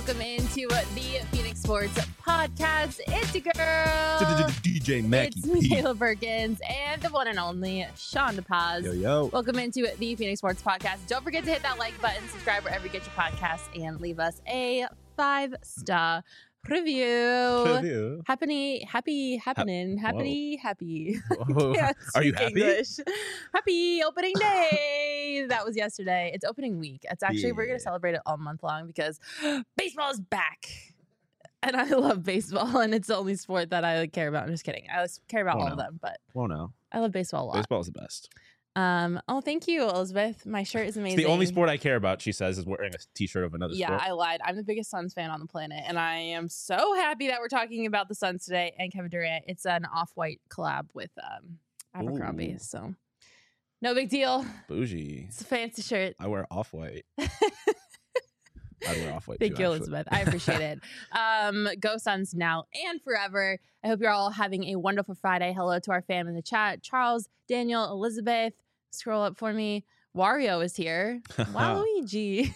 Welcome into the Phoenix Sports Podcast. It's your girl, DJ Mackie. It's Michaela Perkins and the one and only Sean DePaz. Yo. Welcome into the Phoenix Sports Podcast. Don't forget to hit that like button, subscribe wherever you get your podcasts, and leave us a 5-star review. Happy. Are you happy? English. Happy opening day. That was yesterday. It's opening week. It's actually, we're going to celebrate it all month long because baseball is back. And I love baseball, and it's the only sport that I care about. I'm just kidding. I care about all of them, but I love baseball a lot. Baseball is the best. Oh, thank you, Elizabeth. My shirt is amazing. It's the only sport I care about, she says, is wearing a t-shirt of another sport. Yeah, I lied. I'm the biggest Suns fan on the planet, and I am so happy that we're talking about the Suns today and Kevin Durant. It's an off-white collab with Abercrombie, so no big deal. Bougie. It's a fancy shirt. I wear off-white. I'd wear off-white Thank too, you, actually. Elizabeth. I appreciate it. Go Suns now and forever. I hope you're all having a wonderful Friday. Hello to our fam in the chat. Charles, Daniel, Elizabeth. Scroll up for me. Wario is here. Waluigi.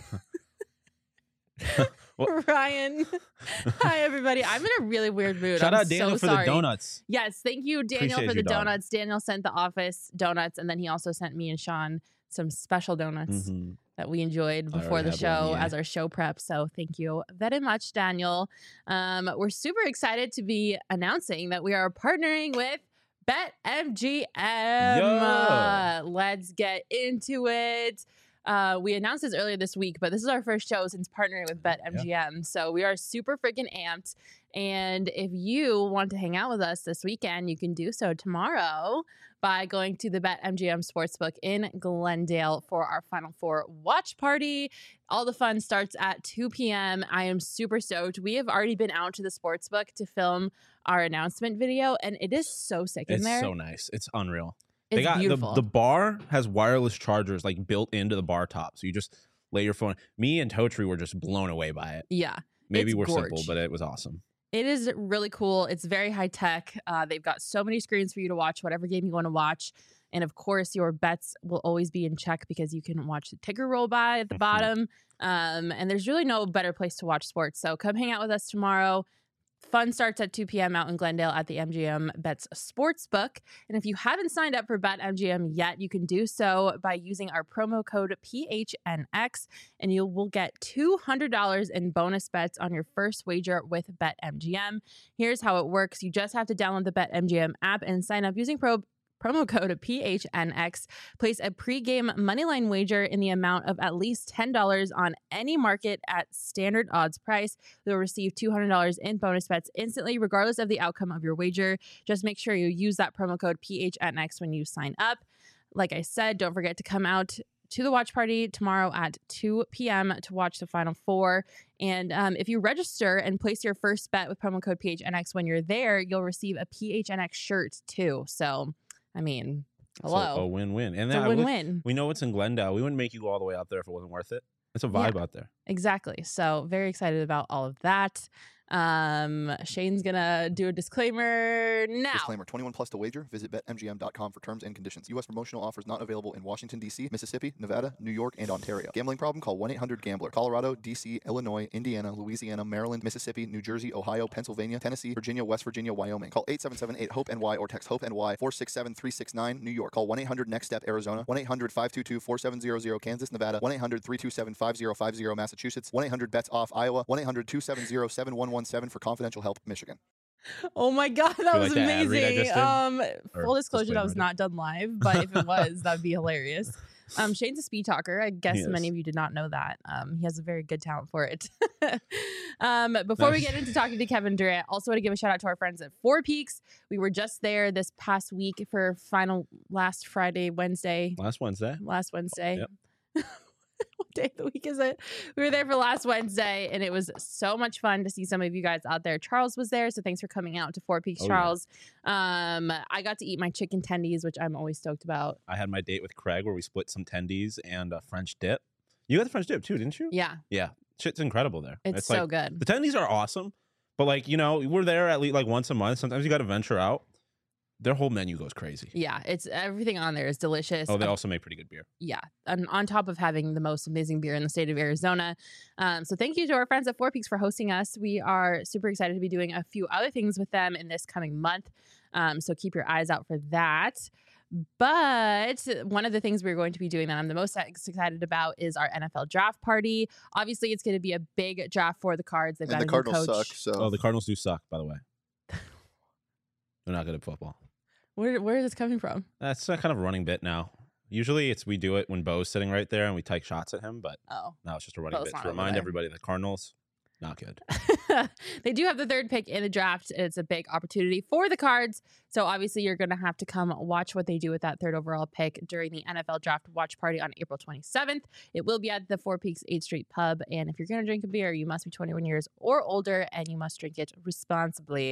Ryan. Hi, everybody. I'm in a really weird mood. Shout I'm out Daniel so for sorry. the donuts. Yes, thank you, Daniel, Appreciate for the you, dog. donuts. Daniel sent the office donuts, and then he also sent me and Sean some special donuts that we enjoyed before the show as our show prep. So thank you very much, Daniel. We're super excited to be announcing that we are partnering with BetMGM. Let's get into it. We announced this earlier this week, but this is our first show since partnering with BetMGM. Yeah. So we are super freaking amped. And if you want to hang out with us this weekend, you can do so tomorrow by going to the BetMGM Sportsbook in Glendale for our Final Four watch party. All the fun starts at 2 p.m. I am super stoked. We have already been out to the Sportsbook to film our announcement video, and it is so sick in there. It's so nice. It's unreal. It's beautiful. The bar has wireless chargers like built into the bar top. So you just lay your phone. Me and Totri were just blown away by it. Yeah. Maybe we're gorge. simple, but it was awesome. It is really cool. It's very high tech. They've got so many screens for you to watch whatever game you want to watch. And of course, your bets will always be in check because you can watch the ticker roll by at the bottom. And there's really no better place to watch sports. So come hang out with us tomorrow. Fun starts at 2 p.m. out in Glendale at the MGM Bets Sportsbook. And if you haven't signed up for BetMGM yet, you can do so by using our promo code PHNX, and you will get $200 in bonus bets on your first wager with BetMGM. Here's how it works. You just have to download the BetMGM app and sign up using promo code PHNX. Place a pregame moneyline wager in the amount of at least $10 on any market at standard odds price. You'll receive $200 in bonus bets instantly, regardless of the outcome of your wager. Just make sure you use that promo code PHNX when you sign up. Like I said, don't forget to come out to the watch party tomorrow at 2 p.m. to watch the Final Four. And if you register and place your first bet with promo code PHNX when you're there, you'll receive a PHNX shirt too. So I mean, hello. So a win-win. And it's a win-win. We know it's in Glendale. We wouldn't make you go all the way out there if it wasn't worth it. It's a vibe out there. Exactly. So very excited about all of that. Shane's gonna do a disclaimer now. Disclaimer: 21 plus to wager. Visit BetMGM.com for terms and conditions. U.S. promotional offers not available in Washington, D.C., Mississippi, Nevada, New York, and Ontario. Gambling problem? Call 1-800-GAMBLER. Colorado, D.C., Illinois, Indiana, Louisiana, Maryland, Mississippi, New Jersey, Ohio, Pennsylvania, Tennessee, Virginia, West Virginia, Wyoming. Call 877-8-HOPE-NY or text HOPE-NY 467-369. New York. Call 1-800-NEXT-STEP, Arizona. 1-800-522-4700, Kansas, Nevada. 1-800-327-5050, Massachusetts. 1-800-BETS-OFF, Iowa. 1-800-270-7117 for confidential help, Michigan. Oh my God, that was like that ad read I amazing. just did? Full disclosure, that disclaimer was did? not done live, but if it was, that'd be hilarious. Shane's a speed talker. I guess He many is. of you did not know that. He has a very good talent for it. Before we get into talking to Kevin Durant, also want to give a shout out to our friends at Four Peaks. We were just there this past week for last Wednesday. Last Wednesday. Yep. What day of the week is it? We were there for last Wednesday, and it was so much fun to see some of you guys out there. Charles was there, so thanks for coming out to Four Peaks, Charles. Yeah. I got to eat my chicken tendies, which I'm always stoked about. I had my date with Craig where we split some tendies and a French dip. You got the French dip too, didn't you? Yeah. Yeah. Shit's incredible there. It's so like, good. The tendies are awesome, but like, you know, we're there at least like once a month. Sometimes you got to venture out. Their whole menu goes crazy. Yeah, it's everything on there is delicious. Oh, they also make pretty good beer. Yeah, and on top of having the most amazing beer in the state of Arizona. So thank you to our friends at Four Peaks for hosting us. We are super excited to be doing a few other things with them in this coming month. So keep your eyes out for that. But one of the things we're going to be doing that I'm the most excited about is our NFL draft party. Obviously, it's going to be a big draft for the Cards. They've got And the a new Cardinals coach. suck. So Oh, the Cardinals do suck, by the way. They're not good at football. Where is this coming from? That's kind of a running bit now. Usually we do it when Bo's sitting right there and we take shots at him, but Oh. now it's just a running Bo's bit not to over remind there. everybody that Cardinals, not good. They do have the third pick in the draft. It's a big opportunity for the Cards. So obviously you're going to have to come watch what they do with that third overall pick during the NFL draft watch party on April 27th. It will be at the Four Peaks 8th Street Pub. And if you're going to drink a beer, you must be 21 years or older and you must drink it responsibly.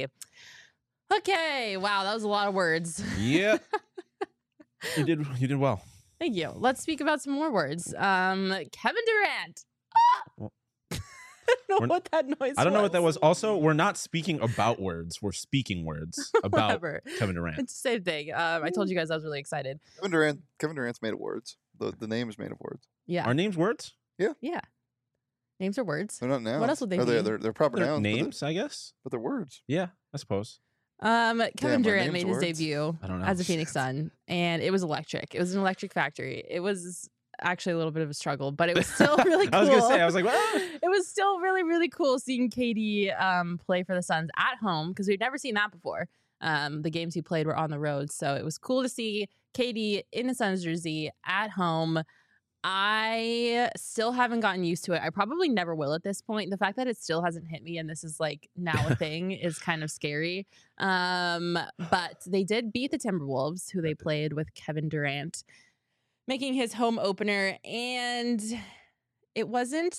Okay. Wow. That was a lot of words. Yeah. You did well. Thank you. Let's speak about some more words. Kevin Durant. Well, I don't know what that noise I don't know what that was. Also, we're not speaking about words. We're speaking words about Whatever. Kevin Durant. It's the same thing. I told you guys I was really excited. Kevin Durant's made of words. The name is made of words. Yeah. Are names words? Yeah. Names are words. They're not nouns. What else would they Or be? They're proper They're nouns. names, I guess. But they're words. Yeah, I suppose. Kevin Damn, Durant our made names his words. debut I don't know. as a Phoenix Sun, and it was electric. It was an electric factory. It was actually a little bit of a struggle, but it was still really cool. I was gonna say, I was like, well, It was still really, really cool seeing KD play for the Suns at home because we'd never seen that before. The games he played were on the road, so it was cool to see KD in the Suns jersey at home. I still haven't gotten used to it. I probably never will at this point. The fact that it still hasn't hit me and this is like now a thing is kind of scary. But they did beat the Timberwolves, who they played with Kevin Durant, making his home opener, and it wasn't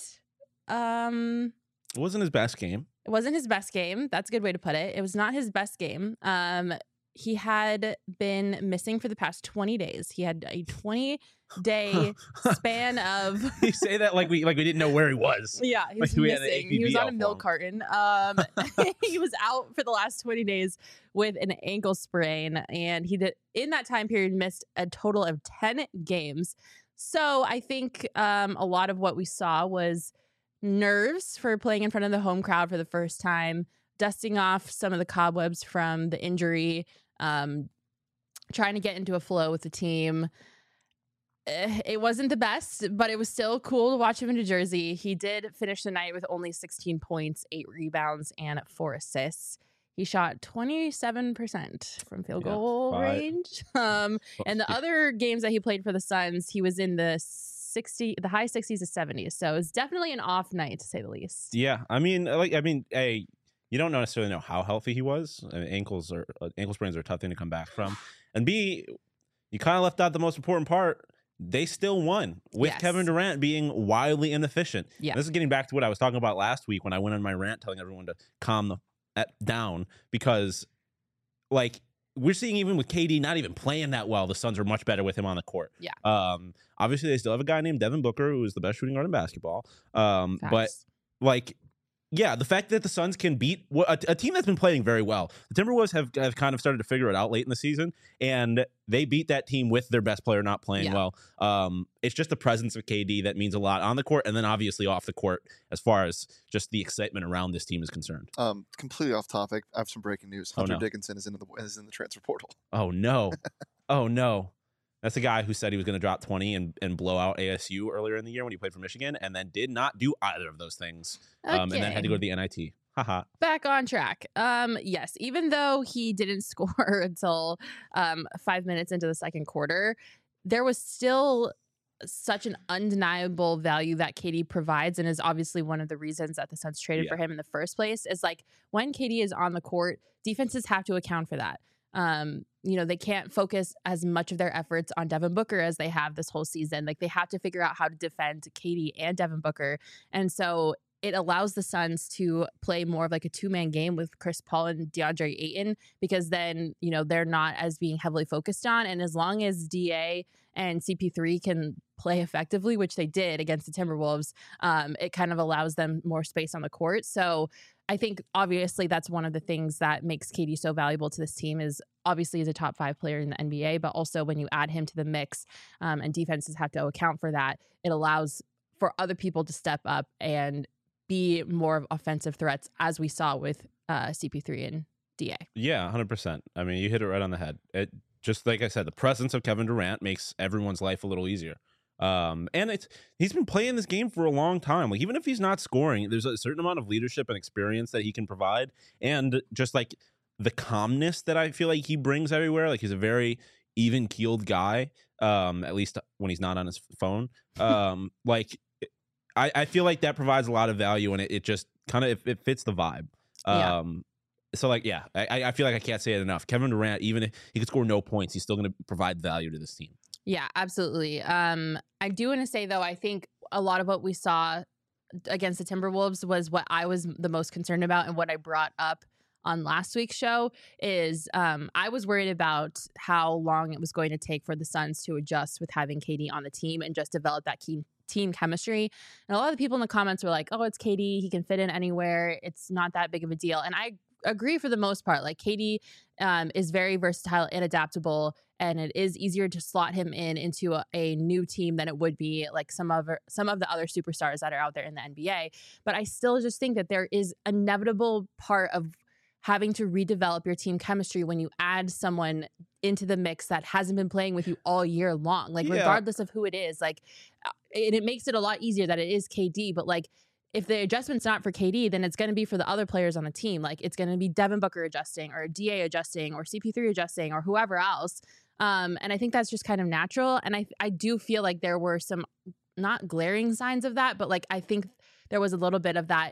it wasn't his best game. it wasn't his best game. That's a good way to put it. It was not his best game. He had been missing for the past 20 days. He had a 20-day span of You say that like we didn't know where he was. yeah, he was Like we had an missing. He was APB on a out milk for him. carton. He was out for the last 20 days with an ankle sprain, and he did in that time period missed a total of 10 games. So I think a lot of what we saw was nerves for playing in front of the home crowd for the first time, dusting off some of the cobwebs from the injury, trying to get into a flow with the team. It wasn't the best, but it was still cool to watch him in New Jersey. He did finish the night with only 16 points, 8 rebounds, and 4 assists. He shot 27% from field Yeah, goal 5. range. And the Yeah. other games that he played for the Suns, he was in the high 60s to 70s. So it's definitely an off night, to say the least. Yeah, hey, you don't necessarily know how healthy he was. I mean, ankle sprains are a tough thing to come back from. And B, you kind of left out the most important part. They still won with Yes. Kevin Durant being wildly inefficient. Yeah. This is getting back to what I was talking about last week when I went on my rant telling everyone to calm down because, like, we're seeing even with KD not even playing that well, the Suns are much better with him on the court. Yeah. Obviously, they still have a guy named Devin Booker who is the best shooting guard in basketball. But Facts. like, yeah, the fact that the Suns can beat a team that's been playing very well. The Timberwolves have kind of started to figure it out late in the season, and they beat that team with their best player not playing Yeah. well. It's just the presence of KD that means a lot on the court, and then obviously off the court as far as just the excitement around this team is concerned. Completely off topic. I have some breaking news. Oh, Hunter no. Dickinson is in the transfer portal. Oh no, oh no. That's the guy who said he was going to drop 20 and blow out ASU earlier in the year when he played for Michigan, and then did not do either of those things, and then had to go to the NIT. Haha. Back on track. Yes, even though he didn't score until 5 minutes into the second quarter, there was still such an undeniable value that KD provides, and is obviously one of the reasons that the Suns traded Yeah. for him in the first place. Is like when KD is on the court, defenses have to account for that. They can't focus as much of their efforts on Devin Booker as they have this whole season. Like they have to figure out how to defend KD and Devin Booker. And so it allows the Suns to play more of like a 2-man game with Chris Paul and DeAndre Ayton, because then, they're not as being heavily focused on. And as long as DA and CP3 can play effectively, which they did against the Timberwolves, it kind of allows them more space on the court. So I think obviously that's one of the things that makes KD so valuable to this team is obviously he's a top 5 player in the NBA, but also when you add him to the mix and defenses have to account for that, it allows for other people to step up and be more of offensive threats as we saw with CP3 and DA. Yeah, 100%. I mean, you hit it right on the head. It just like I said, the presence of Kevin Durant makes everyone's life a little easier. And he's been playing this game for a long time. Like even if he's not scoring, there's a certain amount of leadership and experience that he can provide, and just like the calmness that I feel like he brings everywhere. Like he's a very even keeled guy, at least when he's not on his phone. Like I feel like that provides a lot of value, and it just kind of it fits the vibe. Yeah. So like yeah, I feel like I can't say it enough. Kevin Durant, even if he could score no points, he's still going to provide value to this team. Yeah, absolutely. I do want to say, though, I think a lot of what we saw against the Timberwolves was what I was the most concerned about, and what I brought up on last week's show is I was worried about how long it was going to take for the Suns to adjust with having KD on the team and just develop that team chemistry. And a lot of the people in the comments were like, oh, it's KD. He can fit in anywhere. It's not that big of a deal. And I agree for the most part. Like KD is very versatile and adaptable, and it is easier to slot him into a new team than it would be like some of the other superstars that are out there in the NBA. But I still just think that there is an inevitable part of having to redevelop your team chemistry when you add someone into the mix that hasn't been playing with you all year long. Like regardless of who it is, like it makes it a lot easier that it is KD, but like if the adjustment's not for KD, then it's going to be for the other players on the team. Like it's going to be Devin Booker adjusting, or DA adjusting, or CP3 adjusting, or whoever else. And I think that's just kind of natural. And I do feel like there were some not glaring signs of that, but like I think there was a little bit of that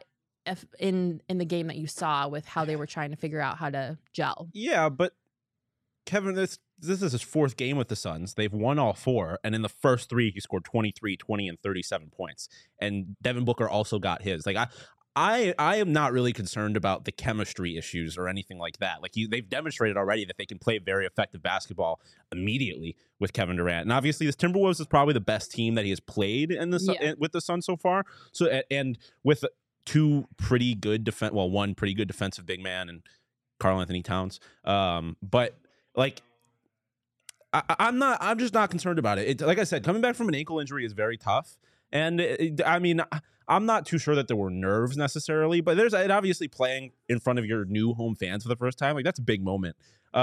in the game that you saw with how they were trying to figure out how to gel. Yeah, but Kevin, this is his 4th game with the Suns. They've won all 4, and in the first 3, he scored 23, 20, and 37 points. And Devin Booker also got his. Like I am not really concerned about the chemistry issues or anything like that. Like they've demonstrated already that they can play very effective basketball immediately with Kevin Durant. And obviously, this Timberwolves is probably the best team that he has played with the Suns so far. So and with 2 pretty good one pretty good defensive big man and Karl-Anthony Towns. But like I'm just not concerned about it. Like I said, coming back from an ankle injury is very tough. And I mean, I'm not too sure that there were nerves necessarily, but there's obviously playing in front of your new home fans for the first time. Like that's a big moment.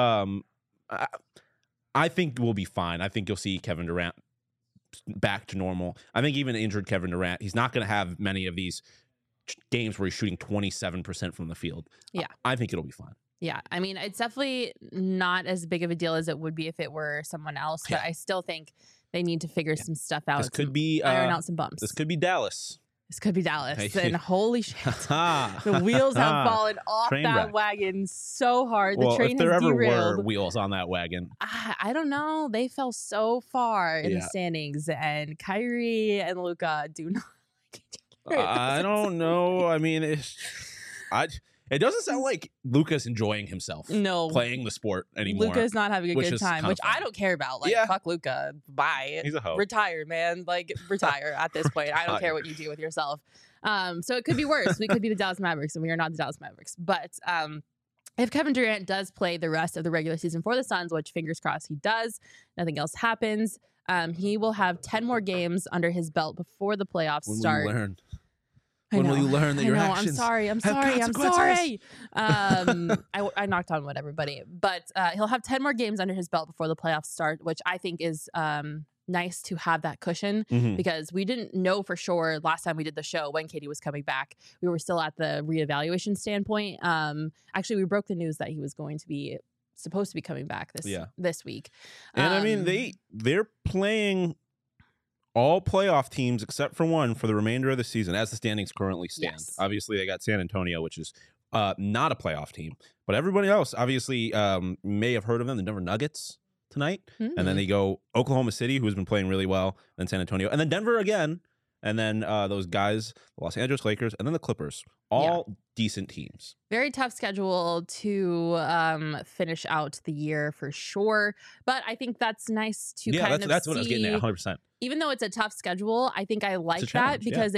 I think we'll be fine. I think you'll see Kevin Durant back to normal. I think even injured Kevin Durant, he's not going to have many of these games where he's shooting 27% from the field. Yeah. I think it'll be fine. Yeah, I mean, it's definitely not as big of a deal as it would be if it were someone else, but I still think they need to figure some stuff out. This could be iron out some bumps. This could be Dallas. This could be Dallas. And holy shit, the wheels have fallen off that wagon so hard. The train has derailed. If there ever were wheels on that wagon. I don't know. They fell so far in the standings, and Kyrie and Luka do not like each other. I don't know. I mean, it doesn't sound like Luka's enjoying himself. No, playing the sport anymore. Luka's not having a good time, which I don't care about. Like, fuck Luka. Bye. He's a hoe. Retire, man. Like, retire at this point. I don't care what you do with yourself. So it could be worse. We could be the Dallas Mavericks, and we are not the Dallas Mavericks. But if Kevin Durant does play the rest of the regular season for the Suns, which fingers crossed he does, nothing else happens, he will have 10 more games under his belt before the playoffs start. Will you learn? When will you learn that your actions I'm sorry. I knocked on wood, everybody. But he'll have 10 more games under his belt before the playoffs start, which I think is nice to have that cushion, because we didn't know for sure last time we did the show when KD was coming back. We were still at the reevaluation standpoint. Actually, we broke the news that he was supposed to be coming back this week. And I mean, they're playing all playoff teams except for one for the remainder of the season as the standings currently stand. Yes. Obviously, they got San Antonio, which is not a playoff team. But everybody else obviously may have heard of them, the Denver Nuggets tonight. And then they go Oklahoma City, who's been playing really well, then San Antonio, and then Denver again. And then those guys, the Los Angeles Lakers, and then the Clippers. All decent teams. Very tough schedule to finish out the year for sure. But I think that's nice to kind of that's see. What I was getting at, 100%. Even though it's a tough schedule, I think I like that because it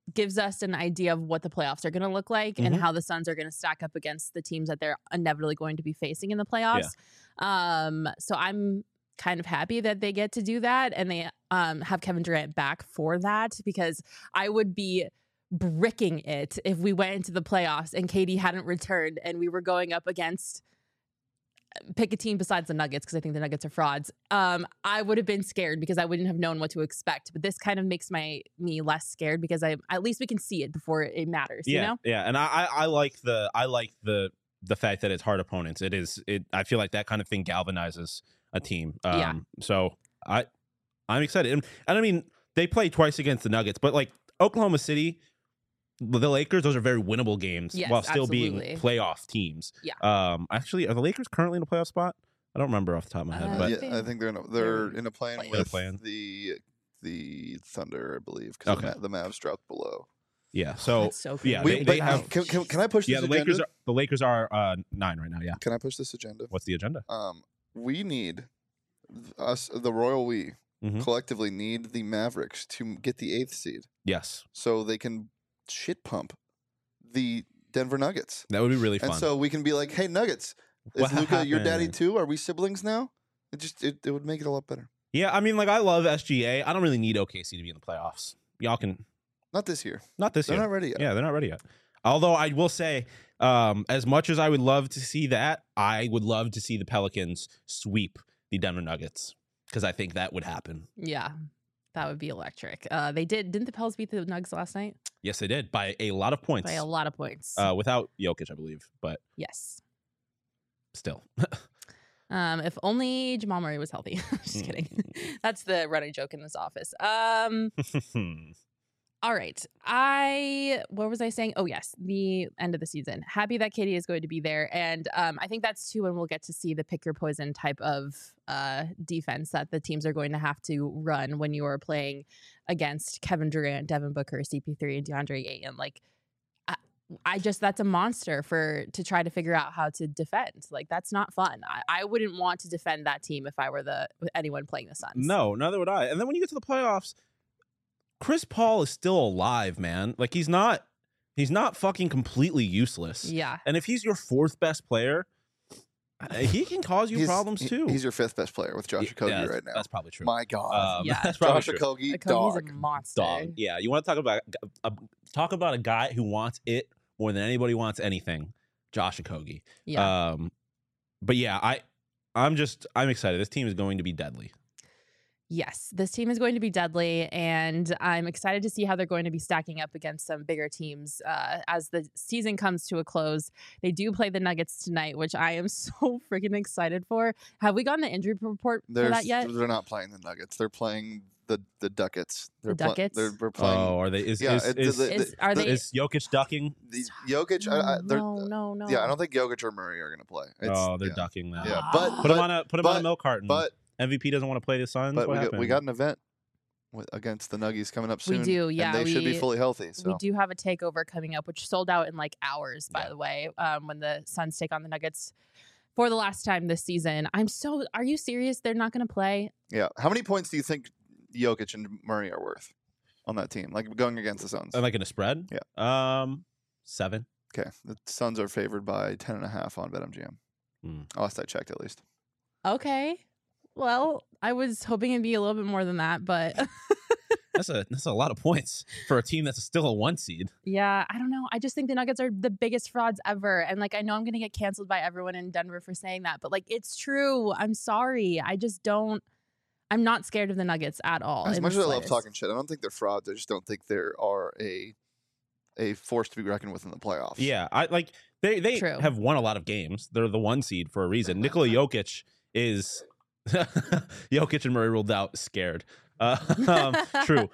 gives us an idea of what the playoffs are going to look like and how the Suns are going to stack up against the teams that they're inevitably going to be facing in the playoffs. So I'm kind of happy that they get to do that and they have Kevin Durant back for that, because I would be bricking it if we went into the playoffs and KD hadn't returned and we were going up against, pick a team besides the Nuggets, because I think the Nuggets are frauds. I would have been scared because I wouldn't have known what to expect. But this kind of makes me less scared because at least we can see it before it matters. Yeah, you know? yeah, and I like the fact that it's hard opponents. I feel like that kind of thing galvanizes a team. So I'm excited, and I mean they play twice against the Nuggets, but like Oklahoma City, the Lakers, those are very winnable games while still being playoff teams. Yeah. Actually, are the Lakers currently in a playoff spot? I don't remember off the top of my head. But I think they're in a play-in with the Thunder, I believe, because the Mavs dropped below. Yeah. So, that's so cool. yeah, they have. Can I push this agenda? The Lakers are 9 right now. Yeah. Can I push this agenda? What's the agenda? We need the Royal We collectively need the Mavericks to get the 8th seed. Yes. So they can shit pump the Denver Nuggets. That would be really fun. And so we can be like, hey, Nuggets, is Luka your daddy too? Are we siblings now? It would make it a lot better. Yeah, I mean, like, I love SGA. I don't really need OKC to be in the playoffs. Y'all can. Not this year. Not this year. They're not ready yet. Yeah, they're not ready yet. Although I will say, as much as I would love to see that, I would love to see the Pelicans sweep the Denver Nuggets, because I think that would happen. Yeah. That would be electric. Didn't the Pels beat the Nuggets last night? Yes, they did, by a lot of points. By a lot of points. Without Jokic, I believe, but yes, still. If only Jamal Murray was healthy. Just kidding. That's the running joke in this office. All right. What was I saying? Oh, yes. The end of the season. Happy that KD is going to be there. And I think that's too when we'll get to see the pick your poison type of defense that the teams are going to have to run when you are playing against Kevin Durant, Devin Booker, CP3, and DeAndre Ayton. Like, that's a monster to try to figure out how to defend. Like, that's not fun. I wouldn't want to defend that team if I were anyone playing the Suns. No, neither would I. And then when you get to the playoffs, Chris Paul is still alive, man. Like, he's not fucking completely useless. Yeah. And if he's your 4th best player, he can cause you problems too. He's your 5th best player with Josh Okogie right now. That's probably true. My God. Yeah. That's probably Josh true. Okogie, Okogie's a monster. Dog. Yeah. You want to talk about a guy who wants it more than anybody wants anything. Josh Okogie. Yeah. But yeah, I'm excited. This team is going to be deadly. Yes, this team is going to be deadly, and I'm excited to see how they're going to be stacking up against some bigger teams as the season comes to a close. They do play the Nuggets tonight, which I am so freaking excited for. Have we gotten the injury report for that yet? They're not playing the Nuggets. They're playing the Ducats. The Ducats? They're playing. Oh, are they? Is Jokic ducking? Jokic? No. Yeah, I don't think Jokic or Murray are going to play. They're ducking that. Yeah, but put him on a milk carton. But MVP doesn't want to play the Suns. But we got an event against the Nuggies coming up soon. We do, yeah. And they should be fully healthy. So. We do have a takeover coming up, which sold out in like hours, by the way, when the Suns take on the Nuggets for the last time this season. Are you serious? They're not going to play? Yeah. How many points do you think Jokic and Murray are worth on that team, like going against the Suns? Like in a spread? Yeah. 7. Okay. The Suns are favored by 10.5 on BetMGM. Last I checked, at least. Okay. Well, I was hoping it'd be a little bit more than that, but that's a lot of points for a team that's still a 1 seed. Yeah, I don't know. I just think the Nuggets are the biggest frauds ever. And like, I know I'm going to get canceled by everyone in Denver for saying that, but like, it's true. I'm sorry. I'm not scared of the Nuggets at all. As much as I love talking shit, I don't think they're frauds. I just don't think they are a force to be reckoned with in the playoffs. Yeah, they have won a lot of games. They're the 1 seed for a reason. Nikola Jokic is Jokic and Murray ruled out scared. True.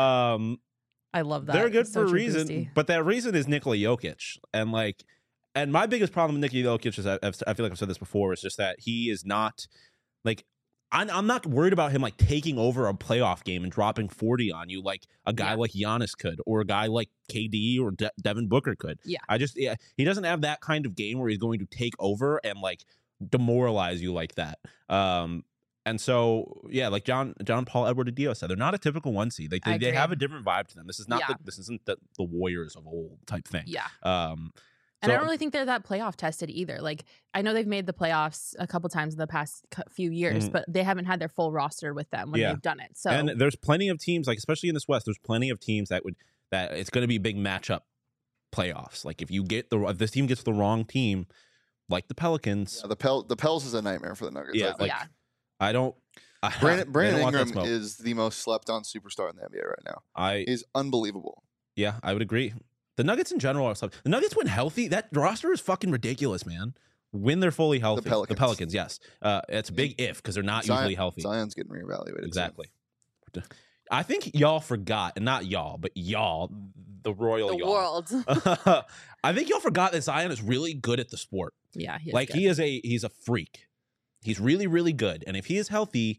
I love that. They're good for a reason, but that reason is Nikola Jokic. And my biggest problem with Nikola Jokic is I feel like I've said this before, is just that he is not like, I'm not worried about him like taking over a playoff game and dropping 40 on you like a guy like Giannis could, or a guy like KD or Devin Booker could. Yeah. He doesn't have that kind of game where he's going to take over and like demoralize you like that. And so, yeah, like John Paul Edward Adio said, they're not a typical 1 seed. They I agree. have a different vibe to them. This is not Yeah. this isn't the Warriors of old type thing. Yeah. So, And I don't really think they're that playoff tested either. Like, I know they've made the playoffs a couple times in the past few years, but they haven't had their full roster with them when they've done it. So, and there's plenty of teams, like especially in this West, there's plenty of teams that it's going to be big matchup playoffs. Like if this team gets the wrong team, like the Pelicans, the Pels is a nightmare for the Nuggets. Yeah, I think. I don't. Brandon want that Ingram smoke. is the most slept on superstar in the NBA right now. He's unbelievable. Yeah, I would agree. The Nuggets in general are slept. The Nuggets when healthy, that roster is fucking ridiculous, man. When they're fully healthy, the Pelicans, yes, it's a big if because they're not usually healthy. Zion's getting reevaluated. Exactly. So. I think y'all forgot, and not y'all, but y'all, the royal y'all. World. I think y'all forgot that Zion is really good at the sport. Yeah, he's a freak. He's really, really good, and if he is healthy,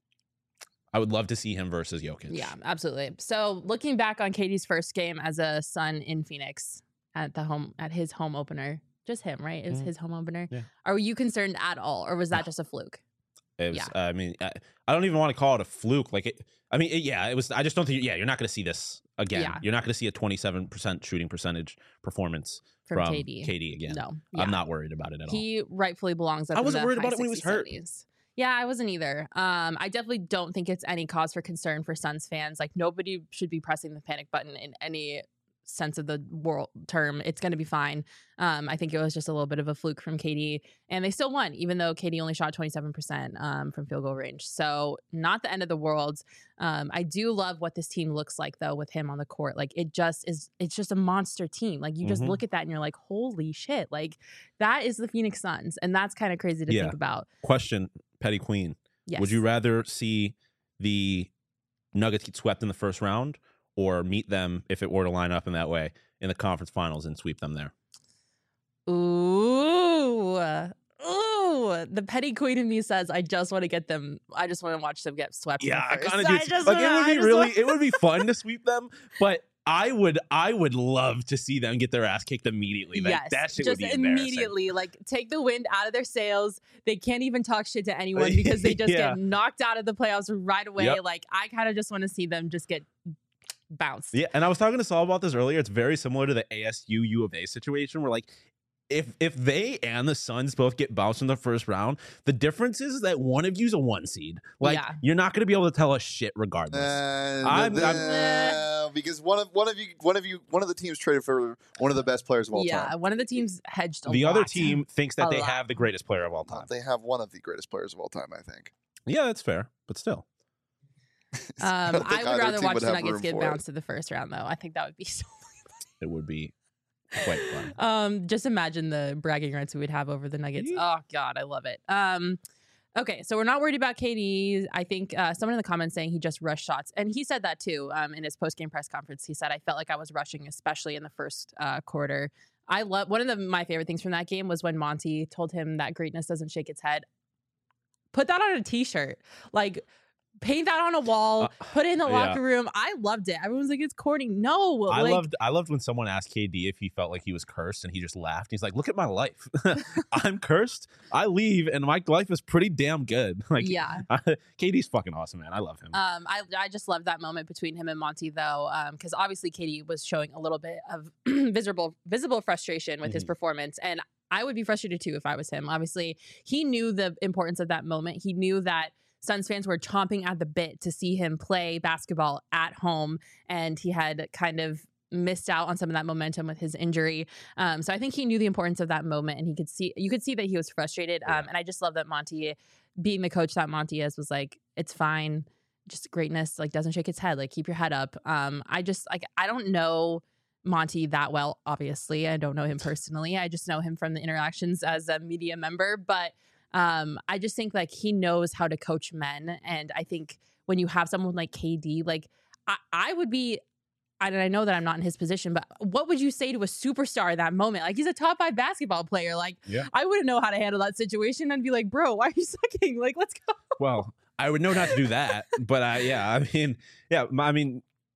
I would love to see him versus Jokic. Yeah, absolutely. So looking back on KD's first game as a Sun in Phoenix at his home opener, just him, right? It was his home opener. Yeah. Are you concerned at all, or was that just a fluke? It was, I mean, I don't even want to call it a fluke. Like it was. I just don't think. Yeah, you're not going to see this again. Yeah. You're not going to see a 27% shooting percentage performance from KD again. No, I'm not worried about it at all. He rightfully belongs. I wasn't worried about it when he was hurt. 70s. Yeah, I wasn't either. I definitely don't think it's any cause for concern for Suns fans. Like nobody should be pressing the panic button in any sense of the world term. It's going to be fine. I think it was just a little bit of a fluke from KD, and they still won, even though KD only shot 27% from field goal range. So not the end of the world. I do love what this team looks like though with him on the court. Like it's just a monster team. Like you just look at that and you're like, holy shit! Like that is the Phoenix Suns, and that's kind of crazy to think about. Question, Petty Queen. Yes. Would you rather see the Nuggets get swept in the first round, or meet them if it were to line up in that way in the conference finals and sweep them there? Ooh, the Petty Queen in me says, I just want to get them. I just want to watch them get swept. Yeah, I kind of do. Like it would be fun to sweep them, but I would love to see them get their ass kicked immediately. Like, that shit just would be immediately, like take the wind out of their sails. They can't even talk shit to anyone because they just get knocked out of the playoffs right away. Yep. Like I kind of just want to see them just get bounced. Yeah, and I was talking to Saul about this earlier. It's very similar to the ASU U of A situation where like if they and the Suns both get bounced in the first round, the difference is that one of you's a 1 seed. Like you're not going to be able to tell us shit regardless. Because one of the teams traded for one of the best players of all time. Yeah, one of the teams hedged a The lot. other team thinks that they have the greatest player of all time. They have one of the greatest players of all time, I think. Yeah, that's fair, but still. I would rather watch the Nuggets get bounced to the first round, though. I think that would be so It would be quite fun. Just imagine the bragging rights we would have over the Nuggets. Oh God, I love it. Okay, so we're not worried about KD. I think someone in the comments saying he just rushed shots, and he said that too in his post-game press conference. He said, "I felt like I was rushing, especially in the first quarter." I love one of my favorite things from that game was when Monty told him that greatness doesn't shake its head. Put that on a T-shirt, like. Paint that on a wall, put it in the locker room. I loved it. Everyone's like, it's corny. No. I loved when someone asked KD if he felt like he was cursed and he just laughed. He's like, look at my life. I'm cursed. I leave and my life is pretty damn good. Like, KD's fucking awesome, man. I love him. I just love that moment between him and Monty though. Because obviously KD was showing a little bit of visible frustration with his performance. And I would be frustrated too if I was him. Obviously, he knew the importance of that moment. He knew that Suns fans were chomping at the bit to see him play basketball at home, and he had kind of missed out on some of that momentum with his injury. So I think he knew the importance of that moment, and you could see that he was frustrated. And I just love that Monty, being the coach that Monty is, was like, it's fine, just greatness like doesn't shake its head, like keep your head up. I don't know Monty that well, obviously. I don't know him personally. I just know him from the interactions as a media member, but I just think like he knows how to coach men. And I think when you have someone like KD, like I would be, and I know that I'm not in his position, but what would you say to a superstar at that moment? Like he's a top 5 basketball player. Like I wouldn't know how to handle that situation. I'd be like, bro, why are you sucking? Like, let's go. Well, I would know not to do that, but I mean,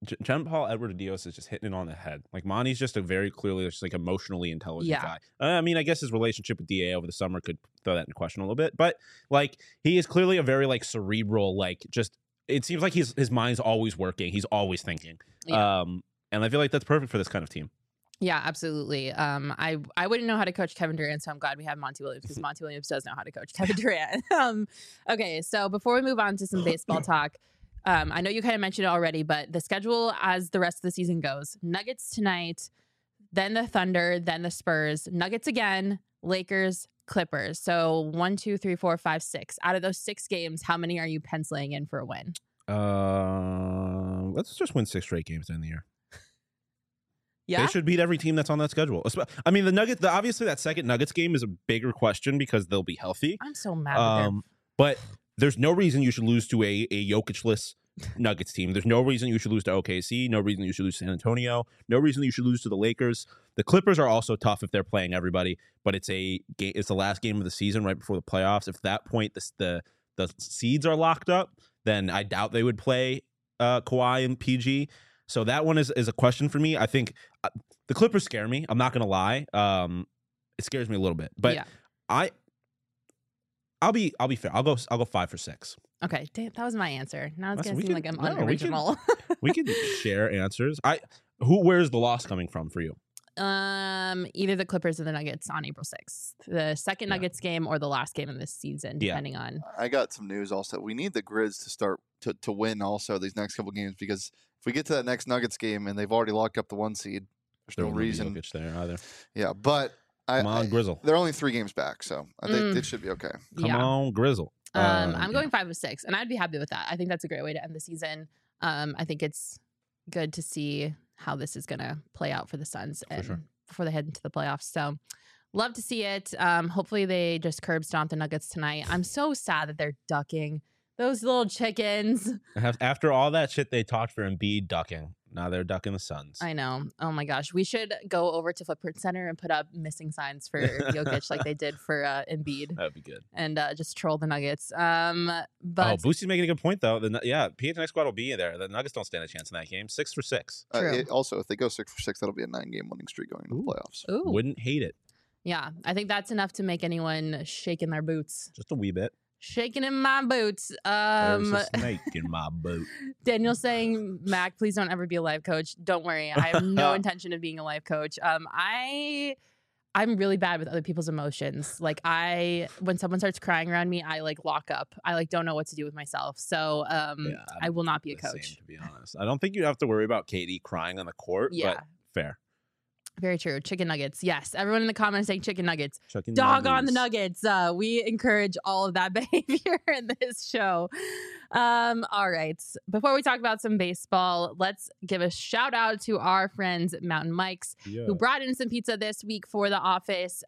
John Paul Edward Dios is just hitting it on the head. Like Monty's just a very clearly just like emotionally intelligent guy. I mean, I guess his relationship with DA over the summer could throw that in question a little bit, but like he is clearly a very like cerebral, like just it seems like his mind's always working. He's always thinking. Yeah. And I feel like that's perfect for this kind of team. Yeah, absolutely. I wouldn't know how to coach Kevin Durant, so I'm glad we have Monty Williams because Monty Williams does know how to coach Kevin Durant. Okay, so before we move on to some baseball talk, I know you kind of mentioned it already, but the schedule as the rest of the season goes: Nuggets tonight, then the Thunder, then the Spurs, Nuggets again, Lakers, Clippers. So 1, 2, 3, 4, 5, 6. Out of those 6 games, how many are you penciling in for a win? Let's just win 6 straight games in the year. Yeah, they should beat every team that's on that schedule. I mean, the Nuggets. Obviously, that second Nuggets game is a bigger question because they'll be healthy. I'm so mad. But there's no reason you should lose to a Jokic-less Nuggets team. There's no reason you should lose to OKC. No reason you should lose to San Antonio. No reason you should lose to the Lakers. The Clippers are also tough if they're playing everybody, but it's the last game of the season right before the playoffs. If at that point the seeds are locked up, then I doubt they would play Kawhi and PG. So that one is a question for me. I think the Clippers scare me. I'm not gonna lie. It scares me a little bit, but yeah. I'll be fair. I'll go 5 for 6. Okay, damn, that was my answer. Now it's Listen, gonna seem like I'm unoriginal. We could share answers. Where's the loss coming from for you? Either the Clippers or the Nuggets on April 6th. The second Nuggets game or the last game of this season, depending on. I got some news also. We need the Grizz to start to win also these next couple games, because if we get to that next Nuggets game and they've already locked up the 1 seed, there's no reason. Jokic there either. Yeah, but come on, Grizzle. They're only 3 games back, so I think it should be okay. Come on, Grizzle. I'm going 5 of 6, and I'd be happy with that. I think that's a great way to end the season. I think it's good to see how this is going to play out for the Suns before they head into the playoffs. So love to see it. Hopefully they just curb stomp the Nuggets tonight. I'm so sad that they're ducking those little chickens. After all that shit they talked for Embiid ducking, now they're ducking the Suns. I know. Oh my gosh. We should go over to Footprint Center and put up missing signs for Jokic like they did for Embiid. That'd be good. And just troll the Nuggets. But Boosie's making a good point though. PHNX squad will be there. The Nuggets don't stand a chance in that game. 6 for 6. Also, if they go 6 for 6, that'll be a 9-game winning streak going into the playoffs. Ooh. Wouldn't hate it. Yeah, I think that's enough to make anyone shake in their boots. Just a wee bit. Shaking in my boots. There's a snake in my boot. Daniel's saying, Mac, please don't ever be a life coach. Don't worry. I have no intention of being a life coach. I'm really bad with other people's emotions. Like when someone starts crying around me, I like lock up. I like don't know what to do with myself. So I will not be a coach. Same, to be honest. I don't think you have to worry about Katie crying on the court, but fair. Very true. Chicken nuggets. Yes. Everyone in the comments saying chicken nuggets. Chicken Dog nuggets. on the nuggets. We encourage all of that behavior in this show. All right. Before we talk about some baseball, let's give a shout out to our friends at Mountain Mike's who brought in some pizza this week for the office.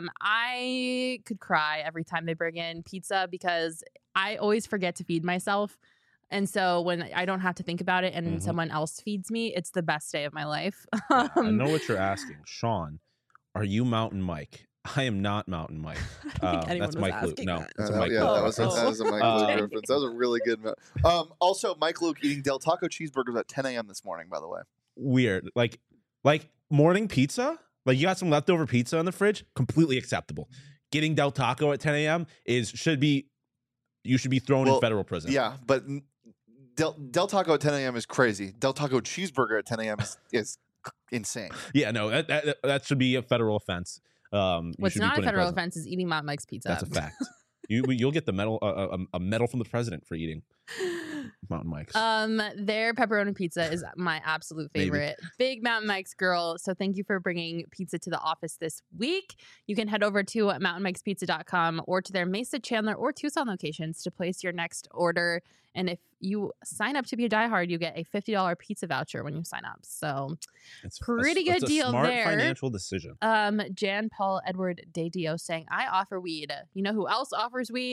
I could cry every time they bring in pizza because I always forget to feed myself. And so when I don't have to think about it and someone else feeds me, it's the best day of my life. I know what you're asking. Sean, are you Mountain Mike? I am not Mountain Mike. That's Mike Luke. No, that's a Mike Luke. That was a Mike Luke reference. That was a really good. Also, Mike Luke eating Del Taco cheeseburgers at 10 a.m. this morning, by the way. Weird. Like morning pizza? Like you got some leftover pizza in the fridge? Completely acceptable. Getting Del Taco at 10 a.m. you should be thrown in federal prison. Yeah, but Del Taco at 10 a.m. is crazy. Del Taco cheeseburger at 10 a.m. is insane. Yeah, no, that should be a federal offense. What's not a federal offense is eating Mountain Mike's pizza. That's a fact. You'll get the medal, a medal from the president for eating Mountain Mike's. Their pepperoni pizza is my absolute favorite. Maybe. Big Mountain Mike's girl. So thank you for bringing pizza to the office this week. You can head over to mountainmikespizza.com or to their Mesa, Chandler, or Tucson locations to place your next order. And if you sign up to be a diehard, you get a $50 pizza voucher when you sign up. So it's pretty good deal smart there. Financial decision. Jan Paul Edward De Dio saying, I offer weed. You know who else offers weed?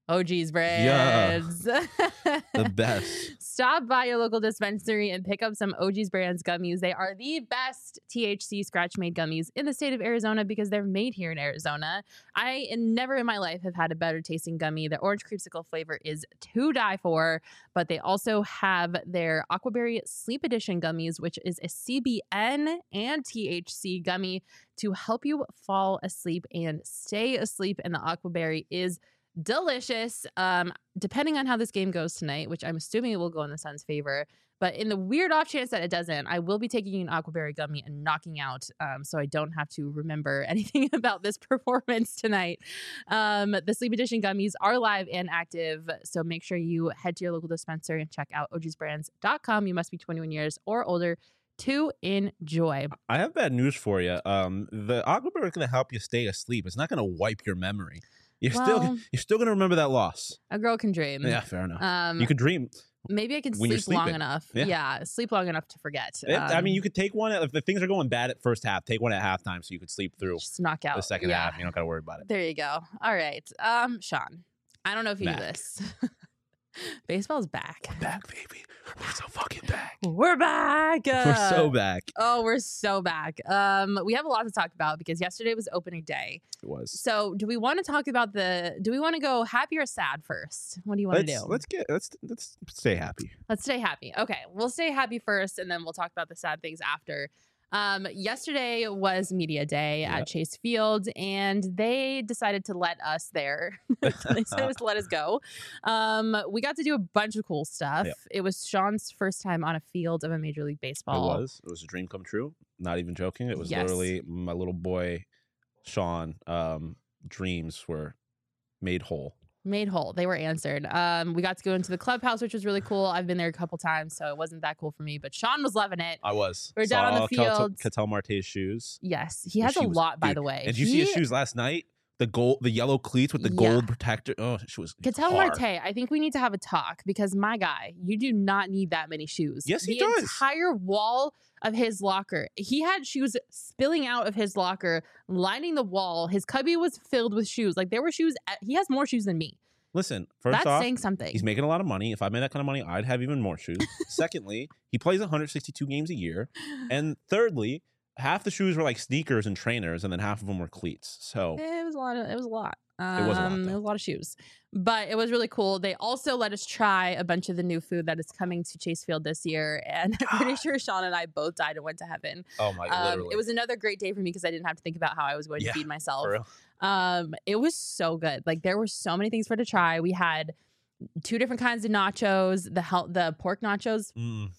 OG's brands. The best. Stop by your local dispensary and pick up some OG's brands gummies. They are the best THC scratch made gummies in the state of Arizona because they're made here in Arizona. I never in my life have had a better tasting gummy. The orange creamsicle flavor is to die for, but they also have their Aquaberry Sleep Edition gummies, which is a CBN and THC gummy to help you fall asleep and stay asleep. And the Aquaberry is delicious. Depending on how this game goes tonight, which I'm assuming it will go in the Suns' favor, but in the weird off chance that it doesn't, I will be taking an Aquaberry gummy and knocking out, so I don't have to remember anything about this performance tonight. The Sleep Edition gummies are live and active, so make sure you head to your local dispensary and check out ogsbrands.com. You must be 21 years or older to enjoy. I have bad news for you. The Aquaberry is going to help you stay asleep. It's not going to wipe your memory. You're still going to remember that loss. A girl can dream. Yeah, fair enough. You could dream. Maybe I can when you're sleep long sleeping. enough. Yeah. Yeah, sleep long enough to forget. I mean, you could take one if the things are going bad at first half. Take one at halftime so you could sleep through just knock out the second half. You don't got to worry about it. There you go. All right, Sean. I don't know if you knew this. Baseball's back. We're back, baby. We're so fucking back. We're back. We're so back. Oh, we're so back. We have a lot to talk about because yesterday was opening day. It was. So, do we want to talk about do we want to go happy or sad first? What do you want to do? Let's stay happy. Let's stay happy. Okay, we'll stay happy first, and then we'll talk about the sad things after. Yesterday was media day at Chase Field, and they decided to let us there. They said it was to let us go. We got to do a bunch of cool stuff. Yep. It was Sean's first time on a field of a Major League Baseball. It was a dream come true. Not even joking. It was Yes. literally my little boy, Sean. Dreams were made whole. Made whole. They were answered. We got to go into the clubhouse, which was really cool. I've been there a couple times, so it wasn't that cool for me, but Sean was loving it. I was. We're down on the field. Ketel Marte's shoes. Yes, he has a lot, by the way. And did you see his shoes last night? The yellow cleats with the gold protector. Oh, she was Ketel hard. Marte, I think we need to have a talk because my guy, you do not need that many shoes. Yes, he the does. Entire wall of his locker, he had shoes spilling out of his locker, lining the wall. His cubby was filled with shoes. Like there were shoes. He has more shoes than me. Listen, first That's off, saying something. he's making a lot of money. If I made that kind of money, I'd have even more shoes. Secondly, he plays 162 games a year. And thirdly, half the shoes were like sneakers and trainers, and then half of them were cleats. So It was a lot. It was a lot. It was a lot, though. It was a lot of shoes, but it was really cool. They also let us try a bunch of the new food that is coming to Chase Field this year, and I'm pretty sure Sean and I both died and went to heaven. oh my, literally, It was another great day for me because I didn't have to think about how I was going to feed myself. for real. It was so good. Like there were so many things for to try. We had 2 different kinds of nachos. The pork nachos.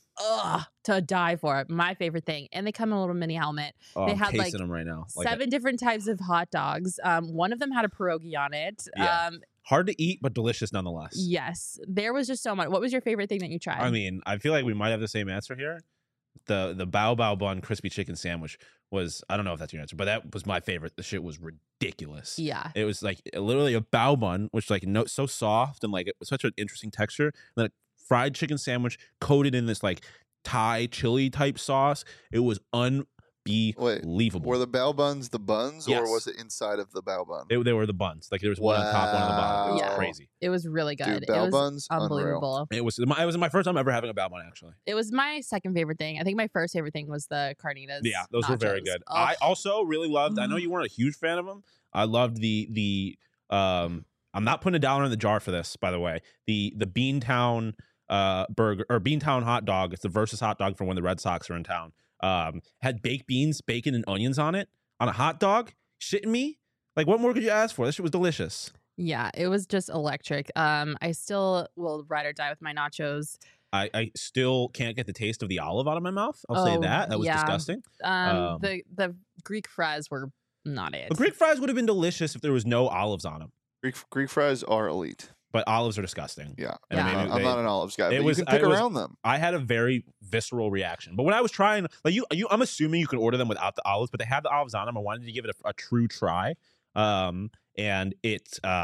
To die for. My favorite thing. And they come in a little mini helmet. Oh, They I'm had, like, tasting them right now. 7 different types of hot dogs. One of them had a pierogi on it. Yeah. Hard to eat, but delicious nonetheless. Yes. There was just so much. What was your favorite thing that you tried? I mean, I feel like we might have the same answer here. The Bao Bao Bun crispy chicken sandwich was, I don't know if that's your answer, but that was my favorite. The shit was ridiculous. Yeah. It was like literally a bao bun, which like so soft and like it was such an interesting texture. And then a fried chicken sandwich coated in this like Thai chili type sauce. It was unbelievable. Were the bao buns the buns, Yes. or was it inside of the bao bun? They were the buns. Like there was one on top, one on the bottom. It was Yeah. crazy. It was really good. Dude, It bao was buns, unreal. unbelievable. It was my first time ever having a bao bun actually. It was my second favorite thing. I think my first favorite thing was the carnitas. Yeah, those were very nachos. good. Oh, I also really loved. I know you weren't a huge fan of them. I loved the. I'm not putting $1 in the jar for this, by the way. The Beantown burger or Beantown hot dog. It's the Versus hot dog from when the Red Sox are in town. Had baked beans, bacon, and onions on it on a hot dog. Shitting me? Like what more could you ask for? This shit was delicious. Yeah, it was just electric. I still will ride or die with my nachos. I still can't get the taste of the olive out of my mouth. I'll say Oh, that. That was yeah. disgusting. The Greek fries were not it. The Greek fries would have been delicious if there was no olives on them. Greek fries are elite. But olives are disgusting. Yeah, And Yeah. maybe I'm they- not an olives guy. it But was- you can pick I was- around them. I had a very visceral reaction. But when I was trying, like I'm assuming you can order them without the olives, but they had the olives on them. I wanted to give it a true try. And it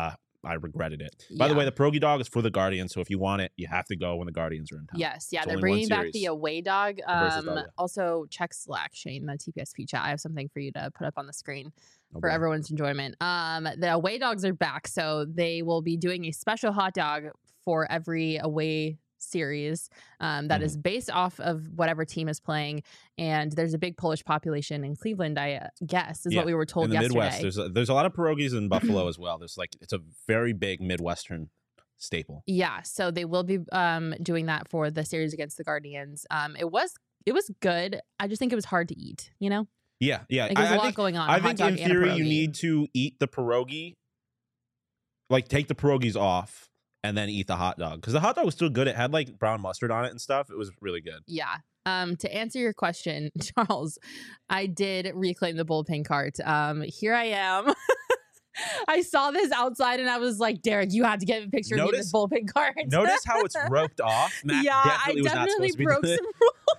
I regretted it. By the way, the pierogi dog is for the Guardians, so if you want it, you have to go when the Guardians are in town. Yes, yeah, It's they're only one bringing back the series. away dog. Versus dog, yeah. Also, check Slack, Shane, the TPSP chat. I have something for you to put up on the screen Oh, for boy. everyone's enjoyment. The away dogs are back, so they will be doing a special hot dog for every away series that is based off of whatever team is playing. And there's a big Polish population in Cleveland, I guess, is Yeah, what we were told in the yesterday. Midwest. There's a lot of pierogies in Buffalo as well. It's a very big Midwestern staple. Yeah, so they will be doing that for the series against the Guardians. It was good. I just think it was hard to eat, you know? Yeah. Like there's a lot going on. I a hot think dog in and a theory you pierogi. need to eat the pierogi, like take the pierogies off and then eat the hot dog, because the hot dog was still good. It had like brown mustard on it and stuff. It was really good. Yeah. To answer your question, Charles, I did reclaim the bullpen cart. Here I am. I saw this outside and I was like, Derek, you have to get a picture of me in this bullpen cart. Notice how it's roped off. Matt Yeah, I was not definitely supposed to be broke doing some it.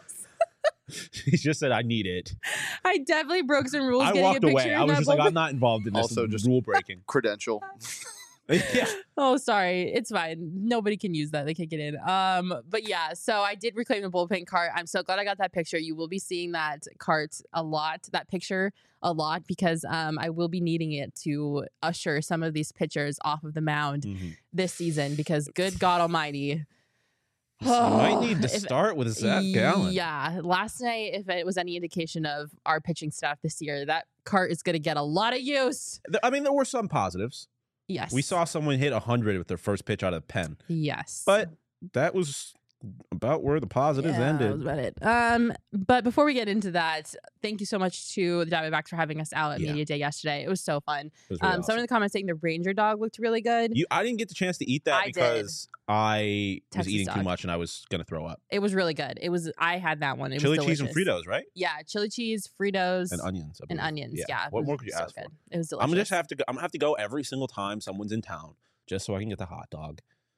rules. He just said, "I need it." I definitely broke some rules. I getting walked a picture away. of I was that just like, bullpen- "I'm not involved in this." Also, just- rule breaking. Credential. Yeah. Oh, sorry. It's fine. Nobody can use that. They can't get in. But yeah, so I did reclaim the bullpen cart. I'm so glad I got that picture. You will be seeing that cart a lot, that picture a lot, because I will be needing it to usher some of these pitchers off of the mound Mhm. this season, because good God Almighty. You might need to If- start with Zach Gallen. Yeah. Last night, if it was any indication of our pitching staff this year, that cart is going to get a lot of use. I mean, there were some positives. Yes. We saw someone hit 100 with their first pitch out of the pen, Yes. but that was about where the positives That ended. was about it. But before we get into that, thank you so much to the Diamondbacks for having us out at Yeah. Media Day yesterday. It was so fun. It was really Some awesome. of the comments saying the Ranger dog looked really good. I didn't get the chance to eat that I did. because I was Texas eating too dog. much and I was gonna throw up. It was really good. I had that one. It Chili was cheese and delicious. Fritos, right? Yeah, chili cheese, Fritos, And onions. I and believe. onions. Yeah. What it more was could you so ask good. for? It was delicious. I'm gonna have to go every single time someone's in town just so I can get the hot dog.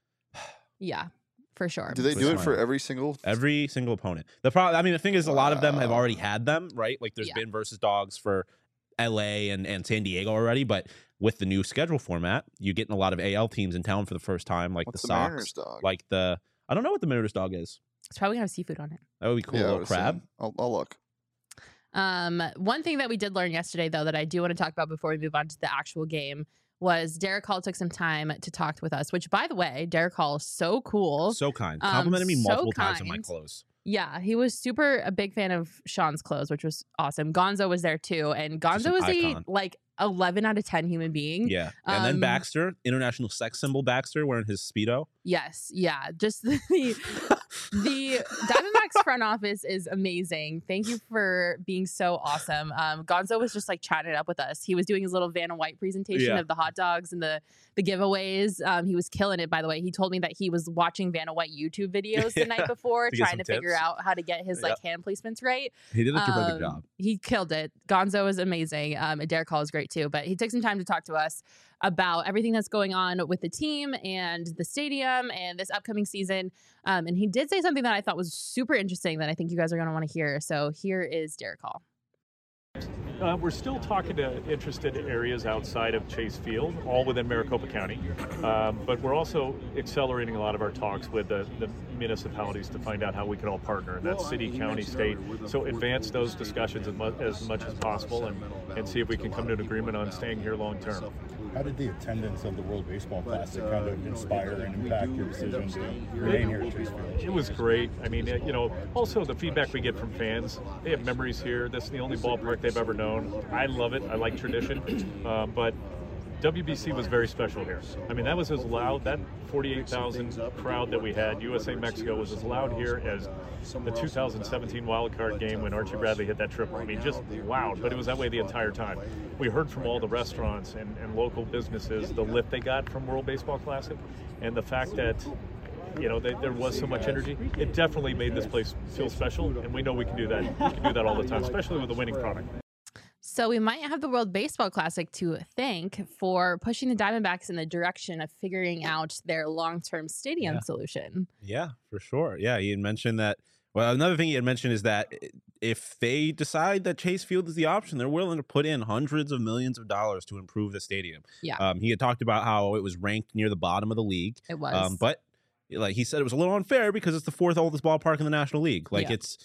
Yeah, for sure. Do they Twist do it my for arm. every single? Every single opponent. The thing is, a lot of them have already had them, right? Like there's Yeah. been versus dogs for LA and San Diego already, but with the new schedule format, you're getting a lot of AL teams in town for the first time, like What's the the Mariners Sox, dog? like I don't know what the Mariners dog is. It's probably gonna have seafood on it. That would be cool. Yeah, A I little would crab. assume. I'll look. One thing that we did learn yesterday, though, that I do want to talk about before we move on to the actual game was Derek Hall took some time to talk with us, which, by the way, Derek Hall is so cool. So kind. Complimented me so multiple times on my kind. clothes. Yeah, he was a big fan of Sean's clothes, which was awesome. Gonzo was there too, and Just Gonzo an was icon. 11 out of 10 human being. Yeah. And then Um, Baxter, international sex symbol Baxter, wearing his Speedo. Yes, yeah. Just the Diamondbacks front office is amazing. Thank you for being so awesome. Gonzo was just like chatting it up with us. He was doing his little Vanna White presentation Yeah. of the hot dogs and the giveaways. He was killing it, by the way. He told me that he was watching Vanna White YouTube videos the night before, To get trying some to figure tips. out how to get his like hand placements right. He did a terrific job. He killed it. Gonzo was amazing. And Derek Hall is great too. But he took some time to talk to us about everything that's going on with the team and the stadium and this upcoming season. And he did say something that I thought was super interesting that I think you guys are going to want to hear. So here is Derek Hall. We're still talking to interested areas outside of Chase Field, all within Maricopa County. But we're also accelerating a lot of our talks with the municipalities to find out how we can all partner. That's city, county, state. So advance those discussions as much as possible and see if we can come to an agreement on staying here long term. How did the attendance of the World Baseball Classic kind of inspire and impact your decision to remain here at Chase Field? It was great. I mean, also the feedback we get from fans, they have memories here. This is the only ballpark they've ever known. I love it. I like tradition. But WBC was very special here. I mean, that was as loud, that 48,000 crowd that we had, USA-Mexico, was as loud here as the 2017 wild card game when Archie Bradley hit that triple. I mean, just loud, but it was that way the entire time. We heard from all the restaurants and local businesses the lift they got from World Baseball Classic, and the fact that there was so much energy. It definitely made this place feel special, and we know we can do that. We can do that all the time, especially with a winning product. So we might have the World Baseball Classic to thank for pushing the Diamondbacks in the direction of figuring out their long-term stadium solution. Yeah, for sure. Yeah, he had mentioned that Well, another thing he had mentioned is that if they decide that Chase Field is the option, they're willing to put in hundreds of millions of dollars to improve the stadium. Yeah. He had talked about how it was ranked near the bottom of the league. It was. But like he said, it was a little unfair because it's the fourth oldest ballpark in the National League. Like Yeah. it's,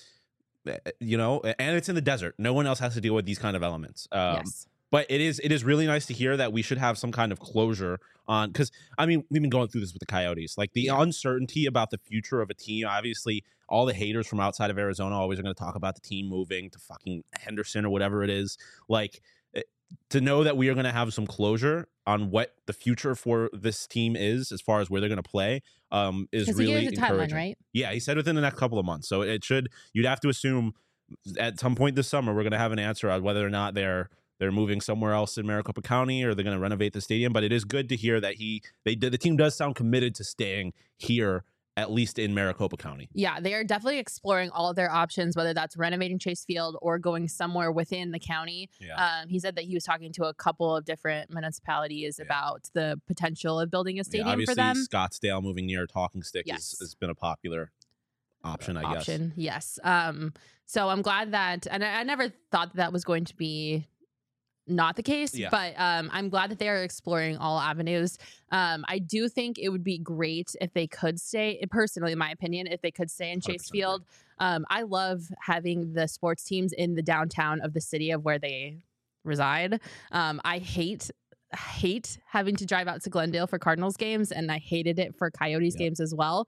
and it's in the desert. No one else has to deal with these kind of elements. Yes. But it is really nice to hear that we should have some kind of closure on, because I mean we've been going through this with the Coyotes, like the uncertainty about the future of a team. Obviously, all the haters from outside of Arizona always are going to talk about the team moving to fucking Henderson or whatever it is. Like to know that we are going to have some closure on what the future for this team is as far as where they're going to play is Because he really gave us a timeline, encouraging. right? Yeah, he said within the next couple of months. So you'd have to assume at some point this summer we're going to have an answer on whether or not they're moving somewhere else in Maricopa County or they're going to renovate the stadium. But it is good to hear that the team does sound committed to staying here, at least in Maricopa County. Yeah, they are definitely exploring all of their options, whether that's renovating Chase Field or going somewhere within the county. Yeah. He said that he was talking to a couple of different municipalities about the potential of building a stadium obviously, for them. Scottsdale moving near Talking Stick Yes. has been a popular option, I guess. Yes. So I'm glad that, and I never thought that was going to be not the case, Yeah. but I'm glad that they are exploring all avenues. I do think it would be great if they could stay, personally, in my opinion, if they could stay in Chase 100% Field. I love having the sports teams in the downtown of the city of where they reside. I hate having to drive out to Glendale for Cardinals games, and I hated it for Coyotes games as well.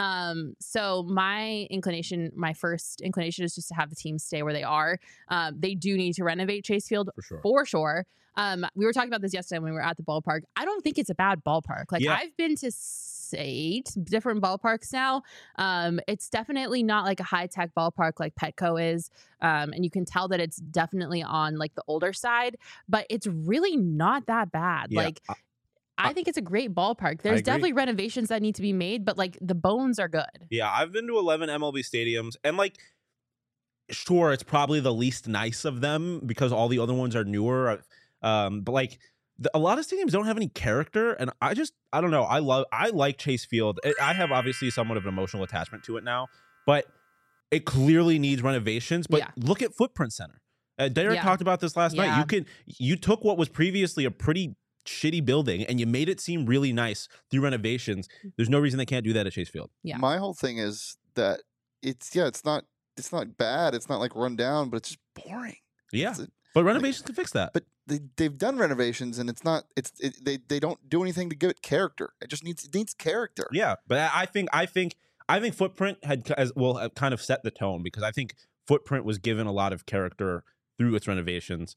So my first inclination is just to have the team stay where they are. They do need to renovate Chase Field for sure. We were talking about this yesterday when we were at the ballpark. I don't think it's a bad ballpark. Like I've been to 8 different ballparks now. It's definitely not like a high-tech ballpark like Petco is. And you can tell that it's definitely on like the older side, but it's really not that bad. Yeah. Like I think it's a great ballpark. There's definitely renovations that need to be made, but like the bones are good. Yeah, I've been to 11 MLB stadiums, and like, sure, it's probably the least nice of them because all the other ones are newer. But like a lot of stadiums don't have any character, and I don't know. I like Chase Field. I have obviously somewhat of an emotional attachment to it now, but it clearly needs renovations. But look at Footprint Center. Derek talked about this last night. You took what was previously a pretty shitty building and you made it seem really nice through renovations. There's no reason they can't do that at Chase Field. Yeah. My whole thing is that it's not bad. It's not like run down, but it's just boring. Yeah. But renovations can fix that. But they've done renovations, and they don't do anything to give it character. It needs character. Yeah, but I think Footprint had kind of set the tone, because I think Footprint was given a lot of character through its renovations.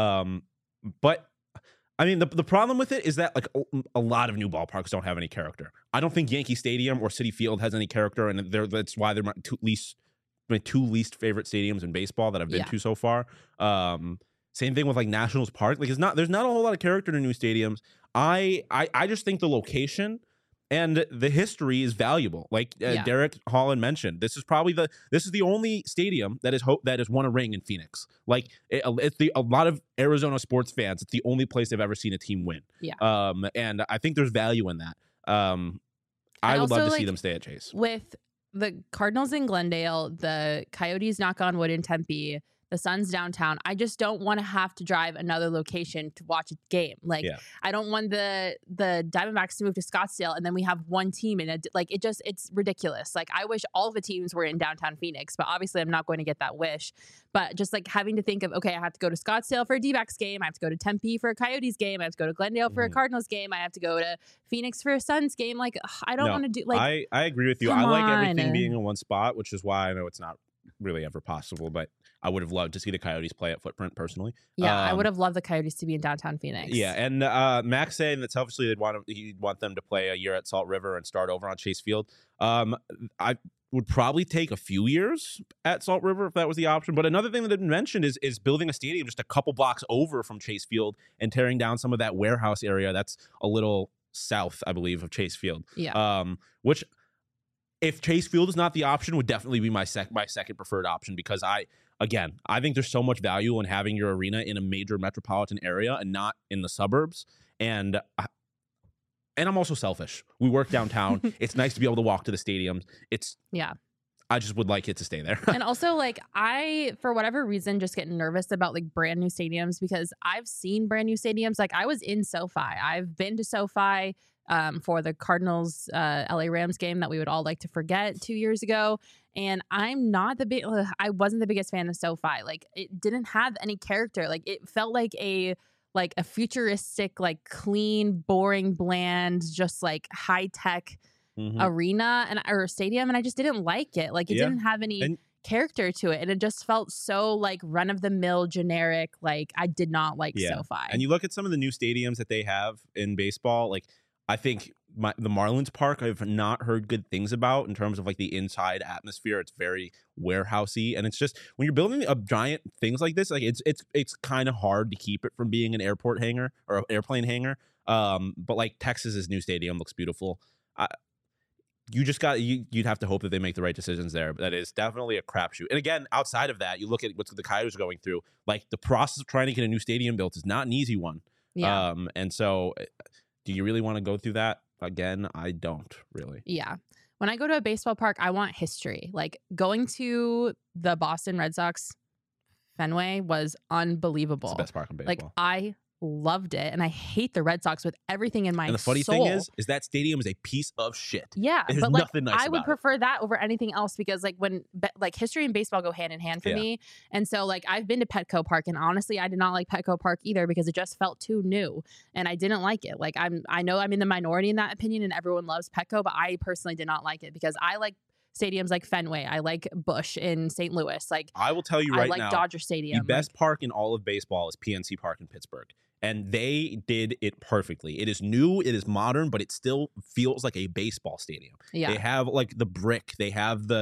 But I mean, the problem with it is that like a lot of new ballparks don't have any character. I don't think Yankee Stadium or Citi Field has any character, and that's why they're my two least favorite stadiums in baseball that I've been to so far. Same thing with like Nationals Park. Like there's not a whole lot of character to new stadiums. I just think the location and the history is valuable. Like Derek Holland mentioned, this is the only stadium that has won a ring in Phoenix. Like it's a lot of Arizona sports fans, it's the only place they've ever seen a team win. Yeah. And I think there's value in that. I would love to see them stay at Chase. With the Cardinals in Glendale, the Coyotes, knock on wood, in Tempe, the Suns downtown, I just don't want to have to drive another location to watch a game. Like I don't want the Diamondbacks to move to Scottsdale and then we have one team in it. Like it's ridiculous. Like I wish all of the teams were in downtown Phoenix, but obviously I'm not going to get that wish. But just like having to think of, okay, I have to go to Scottsdale for a D-backs game. I have to go to Tempe for a Coyotes game. I have to go to Glendale for a Cardinals game. I have to go to Phoenix for a Suns game. Like I don't want to do like. I agree with you. I like everything being in one spot, which is why I know it's not really ever possible, but I would have loved to see the Coyotes play at Footprint personally. Yeah, I would have loved the Coyotes to be in downtown Phoenix. Yeah, and Max saying that selfishly he'd want them to play a year at Salt River and start over on Chase Field. I would probably take a few years at Salt River if that was the option. But another thing that had been mentioned is building a stadium just a couple blocks over from Chase Field and tearing down some of that warehouse area that's a little south, I believe, of Chase Field. Yeah. Which, if Chase Field is not the option, would definitely be my second preferred option, because I think there's so much value in having your arena in a major metropolitan area and not in the suburbs. And I'm also selfish. We work downtown. It's nice to be able to walk to the stadiums. I just would like it to stay there. And also, like, I, for whatever reason, just get nervous about like brand new stadiums because I've seen brand new stadiums. Like, I was in SoFi. I've been to SoFi for the Cardinals LA Rams game that we would all like to forget 2 years ago. And I'm not I wasn't the biggest fan of SoFi. Like, it didn't have any character. Like, it felt like a futuristic, like clean, boring, bland, just like high tech arena or stadium, and I just didn't like it. Like, it didn't have any character to it, and it just felt so like run of the mill, generic. Like, I did not like SoFi. And you look at some of the new stadiums that they have in baseball. Like, I think the Marlins Park, I've not heard good things about in terms of like the inside atmosphere. It's very warehousey, and it's just when you're building a giant things like this, like it's kind of hard to keep it from being an airport hangar or airplane hangar. But like Texas's new stadium looks beautiful. You just you'd have to hope that they make the right decisions there. But that is definitely a crapshoot. And again, outside of that, you look at what the Coyotes are going through. Like, the process of trying to get a new stadium built is not an easy one. Yeah. And so, do you really want to go through that again? I don't really. Yeah. When I go to a baseball park, I want history. Like, going to the Boston Red Sox Fenway was unbelievable. It's the best park in baseball. Like, I loved it, and I hate the Red Sox with everything in my soul. And the funny thing is that stadium is a piece of shit. Yeah, There's but like, nothing nice I would about prefer that over anything else because like when like history and baseball go hand in hand for me, and so like I've been to Petco Park, and honestly, I did not like Petco Park either because it just felt too new, and I didn't like it. Like, I know I'm in the minority in that opinion, and everyone loves Petco, but I personally did not like it because I like stadiums like Fenway. I like Busch in St. Louis. Like, I will tell you right now, I like Dodger Stadium. The best park in all of baseball is PNC Park in Pittsburgh. And they did it perfectly. It is new, it is modern, but it still feels like a baseball stadium. Yeah. They have like the brick, they have the